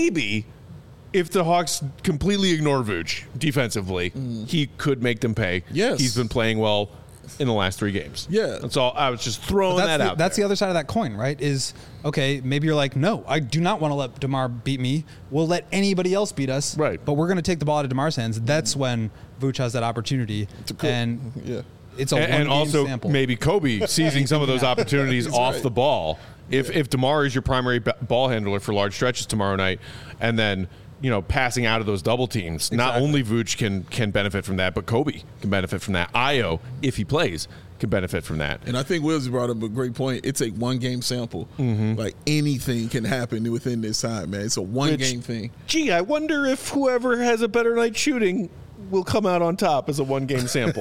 if the Hawks completely ignore Vooch defensively, he could make them pay. Yes. He's been playing well in the last 3 games. Yeah. That's all. I was just throwing that out That's there. the other side of that coin, right? Is, okay, maybe you're like, no, I do not want to let DeMar beat me. We'll let anybody else beat us. Right. But we're going to take the ball out of DeMar's hands. That's when Vooch has that opportunity. And it's a and one-game also sample. maybe Kobe seizing some of those opportunities off the ball. If DeMar is your primary ball handler for large stretches tomorrow night, and then passing out of those double teams, not only Vooch can benefit from that, but Kobe can benefit from that. Io, if he plays, can benefit from that. And I think Wills brought up a great point. It's a one-game sample. Like, anything can happen within this time, man. It's a one-game thing. Gee, I wonder if whoever has a better night shooting will come out on top as a one-game sample.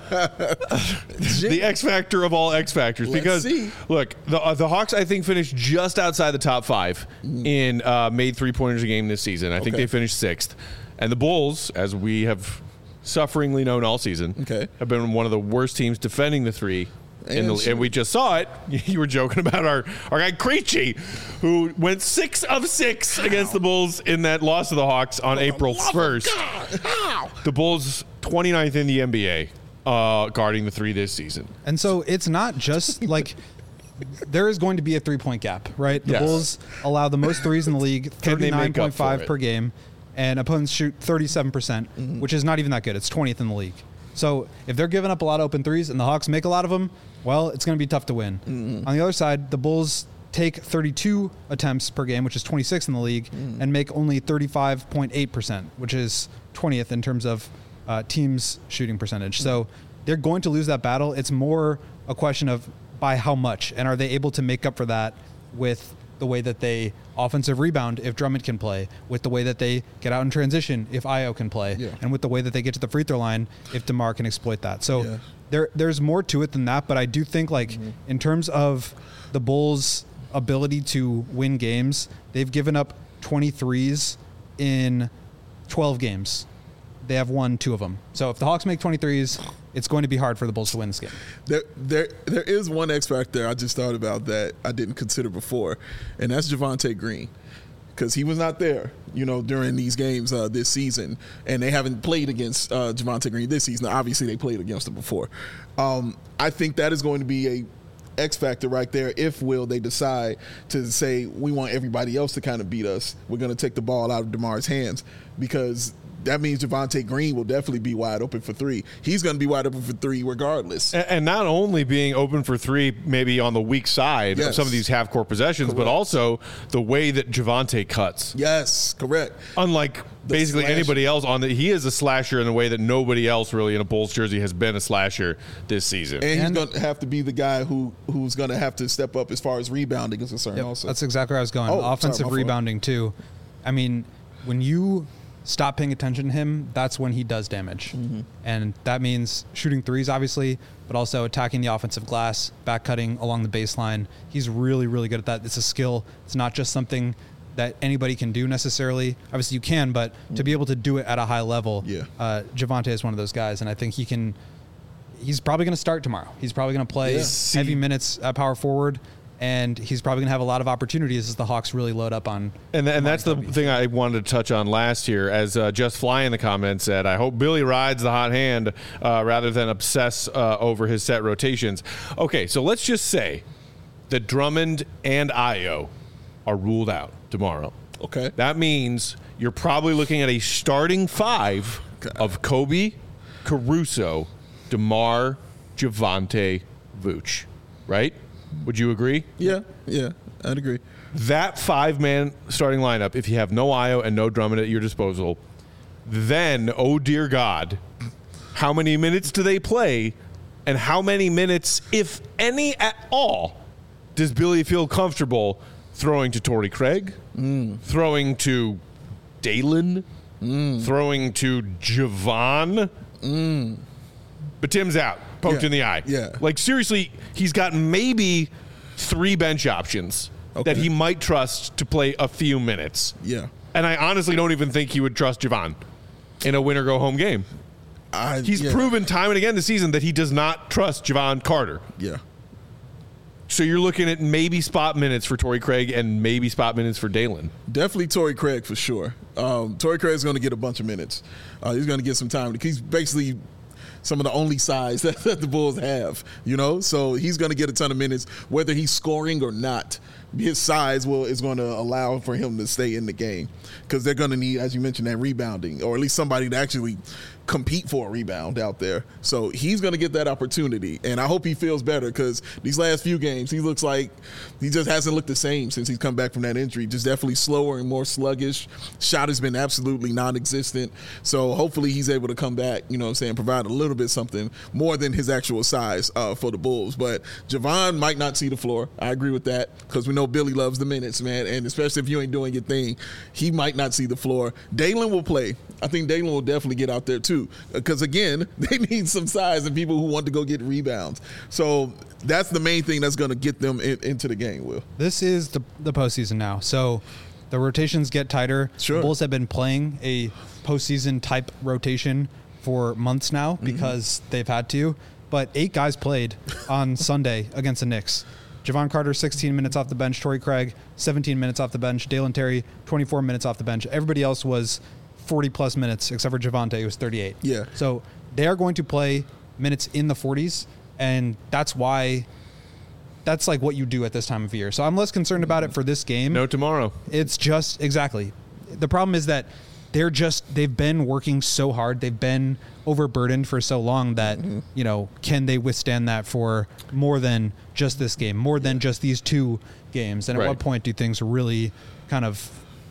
The X factor of all X factors. Because, look, the Hawks, I think, finished just outside the top 5 in made three-pointers a game this season. I think they finished 6th. And the Bulls, as we have sufferingly known all season, have been one of the worst teams defending the three. And we just saw it. You were joking about our guy Krejci, who went 6 of 6 against the Bulls in that loss to the Hawks on April 1st. The Bulls 29th in the NBA guarding the 3 this season. And so it's not just like there is going to be a 3-point gap, right? The Bulls allow the most threes in the league, 39.5 per game, and opponents shoot 37%, which is not even that good. It's 20th in the league. So if they're giving up a lot of open threes and the Hawks make a lot of them, well, it's going to be tough to win. On the other side, the Bulls take 32 attempts per game, which is 26th in the league, and make only 35.8%, which is 20th in terms of teams shooting percentage. So they're going to lose that battle. It's more a question of by how much, and are they able to make up for that with the way that they offensive rebound if Drummond can play, with the way that they get out in transition if Io can play, and with the way that they get to the free throw line if DeMar can exploit that. So there's more to it than that, but I do think, like, in terms of the Bulls' ability to win games, they've given up 23s in 12 games. They have won 2 of them. So if the Hawks make 23s, it's going to be hard for the Bulls to win this game. There is one X factor I just thought about that I didn't consider before, and that's Javonte Green. Because he was not there, during these games this season, and they haven't played against Javonte Green this season. Obviously, they played against him before. I think that is going to be a X factor right there. If they decide to say we want everybody else to kind of beat us, we're going to take the ball out of DeMar's hands, because that means Javonte Green will definitely be wide open for 3. He's going to be wide open for 3 regardless. And not only being open for 3 maybe on the weak side of some of these half-court possessions, but also the way that Javonte cuts. Yes, correct. Unlike basically anybody else he is a slasher in a way that nobody else really in a Bulls jersey has been a slasher this season. And he's going to have to be the guy who's going to have to step up as far as rebounding is concerned also. That's exactly where I was going. Offensive rebounding too. I mean, when you stop paying attention to him, that's when he does damage. Mm-hmm. And that means shooting threes, obviously, but also attacking the offensive glass, back cutting along the baseline. He's really, really good at that. It's a skill. It's not just something that anybody can do necessarily. Obviously you can, but to be able to do it at a high level, Javonte is one of those guys. And I think he's probably going to start tomorrow. He's probably going to play heavy minutes at power forward. And he's probably going to have a lot of opportunities as the Hawks really load up on. And that's the thing I wanted to touch on last year, as Just Fly in the comments said, I hope Billy rides the hot hand rather than obsess over his set rotations. Okay, so let's just say that Drummond and Ayo are ruled out tomorrow. Okay. That means you're probably looking at a starting 5 of Kobe, Caruso, DeMar, Javonte, Vooch, right? Would you agree? Yeah, I'd agree. That 5-man starting lineup, if you have no Ayo and no Drummond at your disposal, then, oh dear God, how many minutes do they play, and how many minutes, if any at all, does Billy feel comfortable throwing to Torrey Craig, throwing to Dalen, throwing to Javon? But Tim's out. Poked in the eye. Yeah. Like, seriously, he's got maybe 3 bench options that he might trust to play a few minutes. Yeah. And I honestly don't even think he would trust Javon in a win-or-go-home game. He's proven time and again this season that he does not trust Javon Carter. Yeah. So you're looking at maybe spot minutes for Torrey Craig and maybe spot minutes for Dalen. Definitely Torrey Craig for sure. Torrey Craig's going to get a bunch of minutes. He's going to get some time. He's basically some of the only size that the Bulls have, So he's going to get a ton of minutes, whether he's scoring or not. His size is going to allow for him to stay in the game, because they're going to need, as you mentioned, that rebounding, or at least somebody to actually compete for a rebound out there. So he's going to get that opportunity, and I hope he feels better, because these last few games, he looks like he just hasn't looked the same since he's come back from that injury. Just definitely slower and more sluggish. Shot has been absolutely non-existent. So hopefully he's able to come back, provide a little bit something more than his actual size for the Bulls. But Javon might not see the floor. I agree with that, because we know Billy loves the minutes, man, and especially if you ain't doing your thing, he might not see the floor. Dalen will play. I think Dalen will definitely get out there too, because again, they need some size and people who want to go get rebounds. So that's the main thing that's going to get them into the game, Will. This is the postseason now, so the rotations get tighter. Sure. The Bulls have been playing a postseason type rotation for months now because they've had to, but 8 guys played on Sunday against the Knicks. Javon Carter, 16 minutes off the bench. Torrey Craig, 17 minutes off the bench. Dalen Terry, 24 minutes off the bench. Everybody else was 40-plus minutes, except for Javonte, who was 38. Yeah. So they are going to play minutes in the 40s, and that's why that's like what you do at this time of year. So I'm less concerned about it for this game. No tomorrow. It's just, exactly. The problem is that they've been working so hard. They've been overburdened for so long that, can they withstand that for more than just this game, more than just these 2 games? And at what point do things really kind of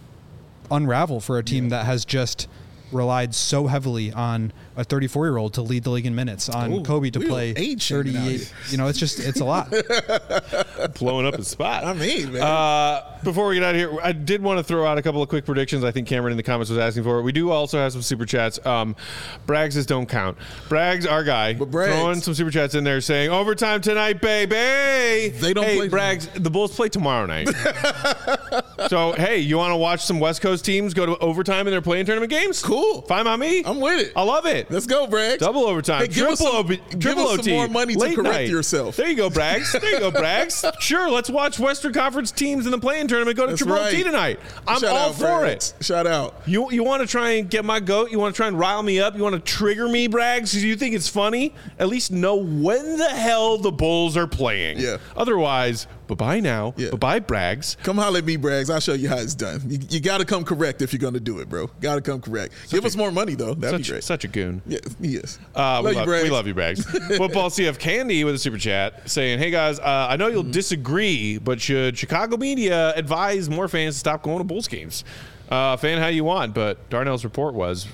unravel for a team that has just relied so heavily on a 34-year-old to lead the league in minutes, on Kobe to play 38. It's a lot. Blowing up his spot. I mean, man. Before we get out of here, I did want to throw out a couple of quick predictions. I think Cameron in the comments was asking for it. We do also have some super chats. Braggs don't count. Braggs, our guy, throwing some super chats in there saying, overtime tonight, baby. They don't play. Braggs, the Bulls play tomorrow night. So, hey, you want to watch some West Coast teams go to overtime in their play-in tournament games? Cool. Fine by me. I'm with it. I love it. Let's go, Braggs. Double overtime. Hey, give us Triple some OT. more money to Late correct night. yourself. There you go, Braggs. There you go, Braggs. Sure, let's watch Western Conference teams in the play-in tournament go to That's Triple right. OT tonight. I'm Shout all out, for Braggs. it. Shout out. You want to try and get my goat? You want to try and rile me up? You want to trigger me, Braggs? Do you think it's funny? At least know when the hell the Bulls are playing. Yeah. Otherwise, bye-bye now. Yeah. Bye-bye, Braggs. Come holler at me, Braggs. I'll show you how it's done. You got to come correct if you're going to do it, bro. Got to come correct. Give us more money, though. That'd be great. Such a goon. Yeah, he is. We love you, Braggs. Braggs. Football CF Candy with a super chat saying, hey, guys, I know you'll disagree, but should Chicago media advise more fans to stop going to Bulls games? Fan how you want, but Darnell's report was...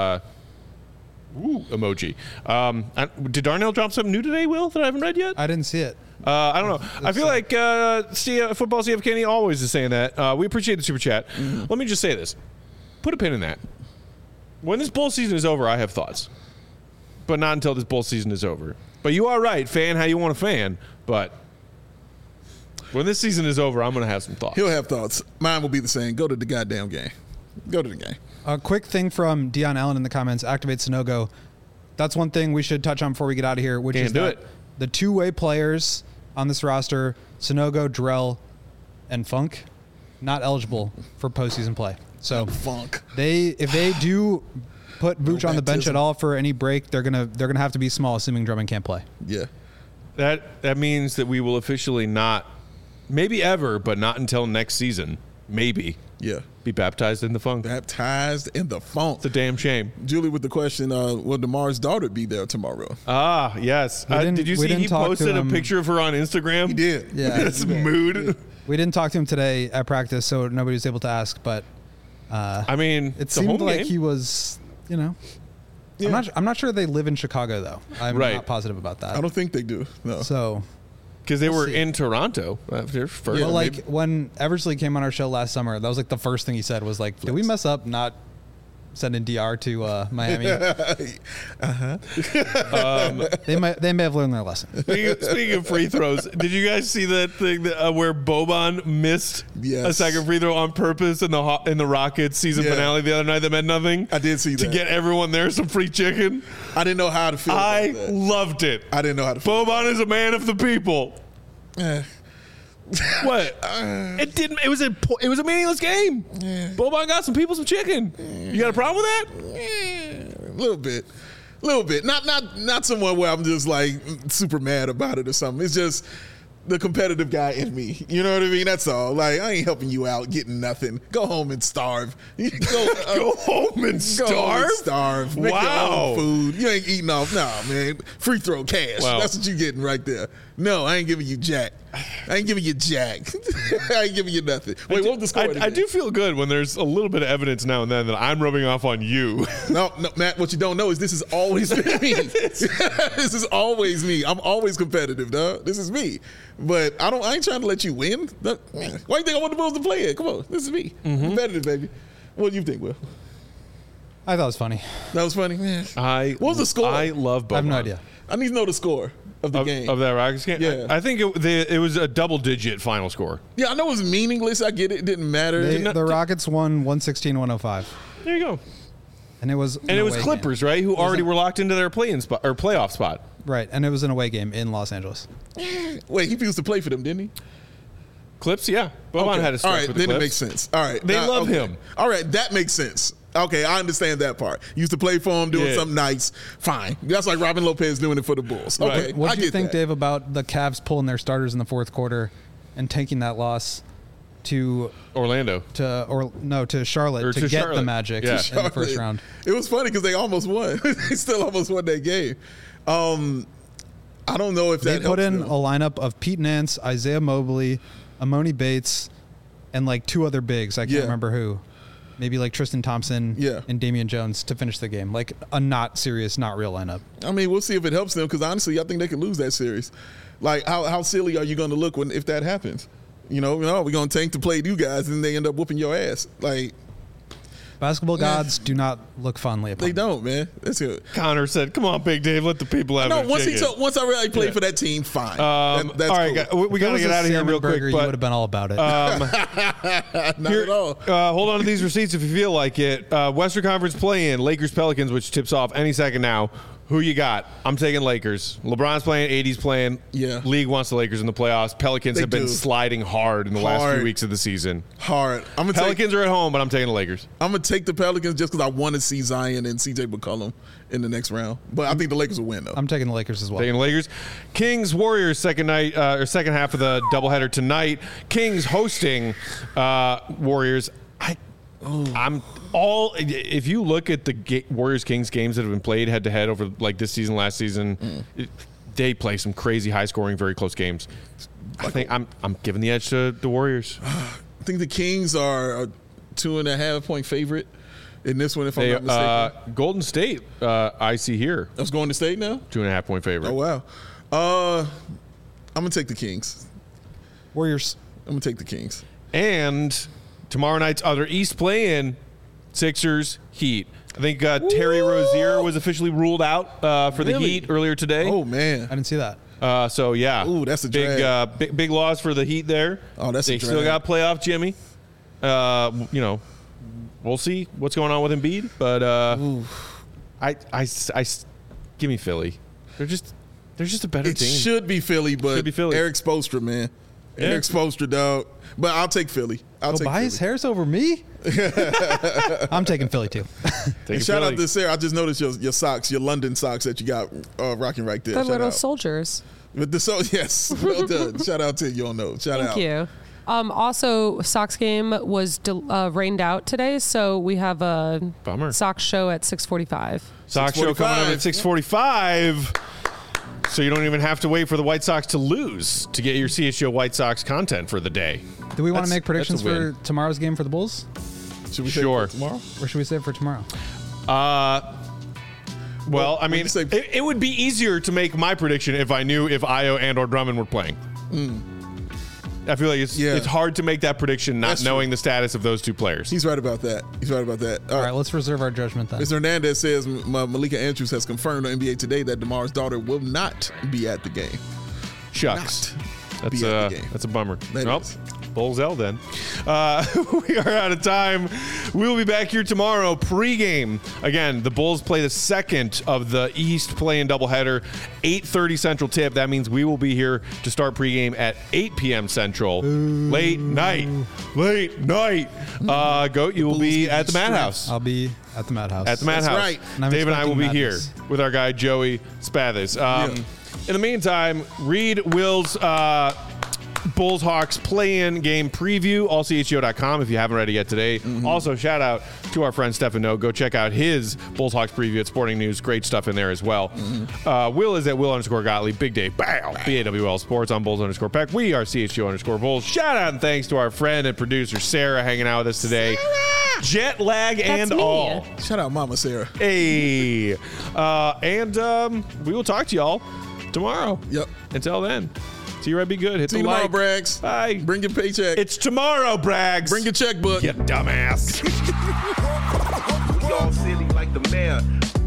emoji. Did Darnell drop something new today, Will, that I haven't read yet? I didn't see it. I don't know. I feel like Football CF Kenny always is saying that. We appreciate the super chat. Let me just say this. Put a pin in that. When this bowl season is over, I have thoughts. But not until this bowl season is over. But you are right. Fan how you want to fan. But when this season is over, I'm going to have some thoughts. He'll have thoughts. Mine will be the same. Go to the goddamn game. Go to the game. A quick thing from Dion Allen in the comments, activate Sonogo. That's one thing we should touch on before we get out of here, which Can't is do that it. the two-way players on this roster, Sonogo, Drell, and Funk, not eligible for postseason play. So Funk. if they do put Vooch on the bench baptism. at all for any break, they're gonna have to be small, assuming Drummond can't play. Yeah. That means that we will officially not, maybe ever, but not until next season, maybe, Yeah. be baptized in the funk. Baptized in the funk. It's a damn shame. Julie with the question, will DeMar's daughter be there tomorrow? Ah, yes. Did you we see didn't he talk to posted a him. picture of her on Instagram? He did. Yeah. That's mood. We didn't talk to him today at practice, so nobody was able to ask. But I mean, it it's a seemed home like game. he was, Yeah. I'm not sure they live in Chicago though. I'm Right. not positive about that. I don't think they do. No. So, Because they were see. in Toronto after first. Yeah, well, like maybe. when Eversley came on our show last summer, that was like the first thing he said was like, "Did we mess up not sending DR to Miami?" They may have learned their lesson. Speaking of free throws, did you guys see that thing where Boban missed Yes. a second free throw on purpose in the Rockets season Yeah. finale the other night that meant nothing? I did see To that. get everyone there some free chicken. I didn't know how to feel I about that. loved it. I didn't know how to feel. Boban is a man of the people. Eh. What? It didn't. It was a meaningless game. Boban got some people some chicken. You got a problem with that? A little bit. Not someone where I'm just like super mad about it or something. It's just the competitive guy in me. You know what I mean? That's all. Like, I ain't helping you out getting nothing. Go home and starve. Go home and starve? Go home and starve. Make your Wow. own food. You ain't eating off. Nah, man. Free throw cash. Wow. That's what you getting right there. No, I ain't giving you jack. I ain't giving you jack. I ain't giving you nothing. Wait, what was the score? I again? do feel good when there's a little bit of evidence now and then that I'm rubbing off on you. No, Matt, what you don't know is this has always been me. This is always me. I'm always competitive, dog. This is me. But I ain't trying to let you win. Why do you think I want the Bulls to play it? Come on. This is me. Competitive, baby. What do you think, Will? I thought it was funny. That was funny? What was the score? I love Boban. I have no idea. I need to know the score of the game. Of that Rockets game? Yeah. I think it was a double-digit final score. Yeah, I know it was meaningless. I get it. It didn't matter. The Rockets won 116-105, There you go. and it was And it was Clippers, right, who already were locked into their play-in spot or playoff spot. right? And it was an away game in Los Angeles. Wait, he used to play for them, didn't he? Clips, yeah. Boban had a All stretch right, with the then Clips. it makes sense. All right. They love okay. him. All right, that makes sense. Okay, I understand that part. Used to play for him, doing Yeah. something nice. Fine. That's like Robin Lopez doing it for the Bulls. Right. Okay, What I do you get think, that. Dave, about the Cavs pulling their starters in the fourth quarter and taking that loss to Orlando. Charlotte Or to to get Charlotte. the Magic Yeah. in the first round? It was funny because they almost won. They still almost won that game. I don't know if They that put helps in them. a lineup of Pete Nance, Isaiah Mobley, Amoni Bates, and like two other bigs. I can't Yeah. remember who. Maybe like Tristan Thompson Yeah. and Damian Jones to finish the game. Like a not serious, not real lineup. I mean, we'll see if it helps them because honestly, I think they could lose that series. Like, how silly are you going to look if that happens? We're going to tank to play you guys and they end up whooping your ass. Like, Basketball gods do not look fondly upon They me. don't, man. That's it. Connor said, "Come on, Big Dave, let the people have No, it." once I really played for that team, fine. That's all right, cool. we If it got to was get a out of here salmon real burger, quick. you would But have been all about it. Not at all. hold on to these receipts if you feel like it. Western Conference play-in, Lakers Pelicans, which tips off any second now. Who you got? I'm taking Lakers. LeBron's playing, AD's playing. Yeah. League wants the Lakers in the playoffs. Pelicans have been do. sliding hard in the last Hard. few weeks of the season. Hard. Pelicans are at home, but I'm taking the Lakers. I'm gonna take the Pelicans just because I want to see Zion and CJ McCollum in the next round. But I think the Lakers will win though. I'm taking the Lakers as well. Taking the Lakers. Kings Warriors second half of the doubleheader tonight. Kings hosting Warriors. If you look at the Warriors Kings games that have been played head to head over like this season, last season, they play some crazy high scoring, very close games. I think I'm giving the edge to the Warriors. I think the Kings are a 2.5 point favorite in this one, if I'm They, not mistaken. Golden State, I see here, I was going to state now. 2.5 point favorite. Oh wow. I'm gonna take the Kings. Warriors. I'm gonna take the Kings. And tomorrow night's other East play-in, Sixers, Heat. I think Terry Rozier was officially ruled out for the Really? Heat earlier today. Oh man. I didn't see that. So yeah, Ooh, that's a big, drag. big loss for the Heat there. Oh, that's a they still drag. got playoff Jimmy. We'll see what's going on with Embiid, but I give me Philly. They're just a better It team. should be Philly, but Should be Philly. Eric Spoelstra, man. Yeah. Eric Spoelstra, dog. But I'll take Philly. I'll Go take buy Philly. his hairs over me? Uh, I'm taking Philly too. Taking And shout Philly. out to Sarah. I just noticed your socks, your London socks that you got rocking right there. The Shout little out. soldiers. With the yes, well done. Shout out to you on those. Shout Thank out. you. Also, Sox game was rained out today, so we have a Bummer. Sox show at 6:45. Sox show coming up at 6:45. 6:45. So you don't even have to wait for the White Sox to lose to get your CHGO White Sox content for the day. Do we want That's- to make predictions that's a win. for tomorrow's game for the Bulls? Should we say Sure. tomorrow? Or should we save it for tomorrow? Well, I when mean, you say- it would be easier to make my prediction if I knew if Io and or Drummond were playing. I feel like it's hard to make that prediction not That's true. knowing the status of those two players. He's right about that. All right, let's reserve our judgment then. Mr. Hernandez says Malika Andrews has confirmed on NBA Today that DeMar's daughter will not be at the game. Shucks. be at the game. That's a bummer. That Well, is. Bulls L then. We are out of time. We'll be back here tomorrow pregame. Again, the Bulls play the second of the East play-in doubleheader, 8:30 Central tip. That means we will be here to start pregame at 8 p.m. Central. Late night. Goat, you will be at the Madhouse. I'll be at the Madhouse. At the Madhouse. right. And I'm Dave and I will be expecting here madness. with our guy Joey Spathis. In the meantime, read Will's Bulls Hawks play-in game preview, allchgo.com if you haven't read it yet today. Also, shout out to our friend Stefan No. Go check out his Bulls Hawks preview at Sporting News. Great stuff in there as well. Will is at Will_Gottlieb. Big Dave, BAW, BAWL Sports on Bulls_Peck. We are CHGO_Bulls. Shout out and thanks to our friend and producer Sarah hanging out with us today. Jet lag and me. all. Shout out Mama Sarah. Hey. And we will talk to y'all tomorrow. Yep. Until then, see you right. Be good. Hit See the you tomorrow, like. Braggs. Bye. Bring your paycheck. It's tomorrow, Braggs. Bring your checkbook. You dumbass. We all silly like the mayor.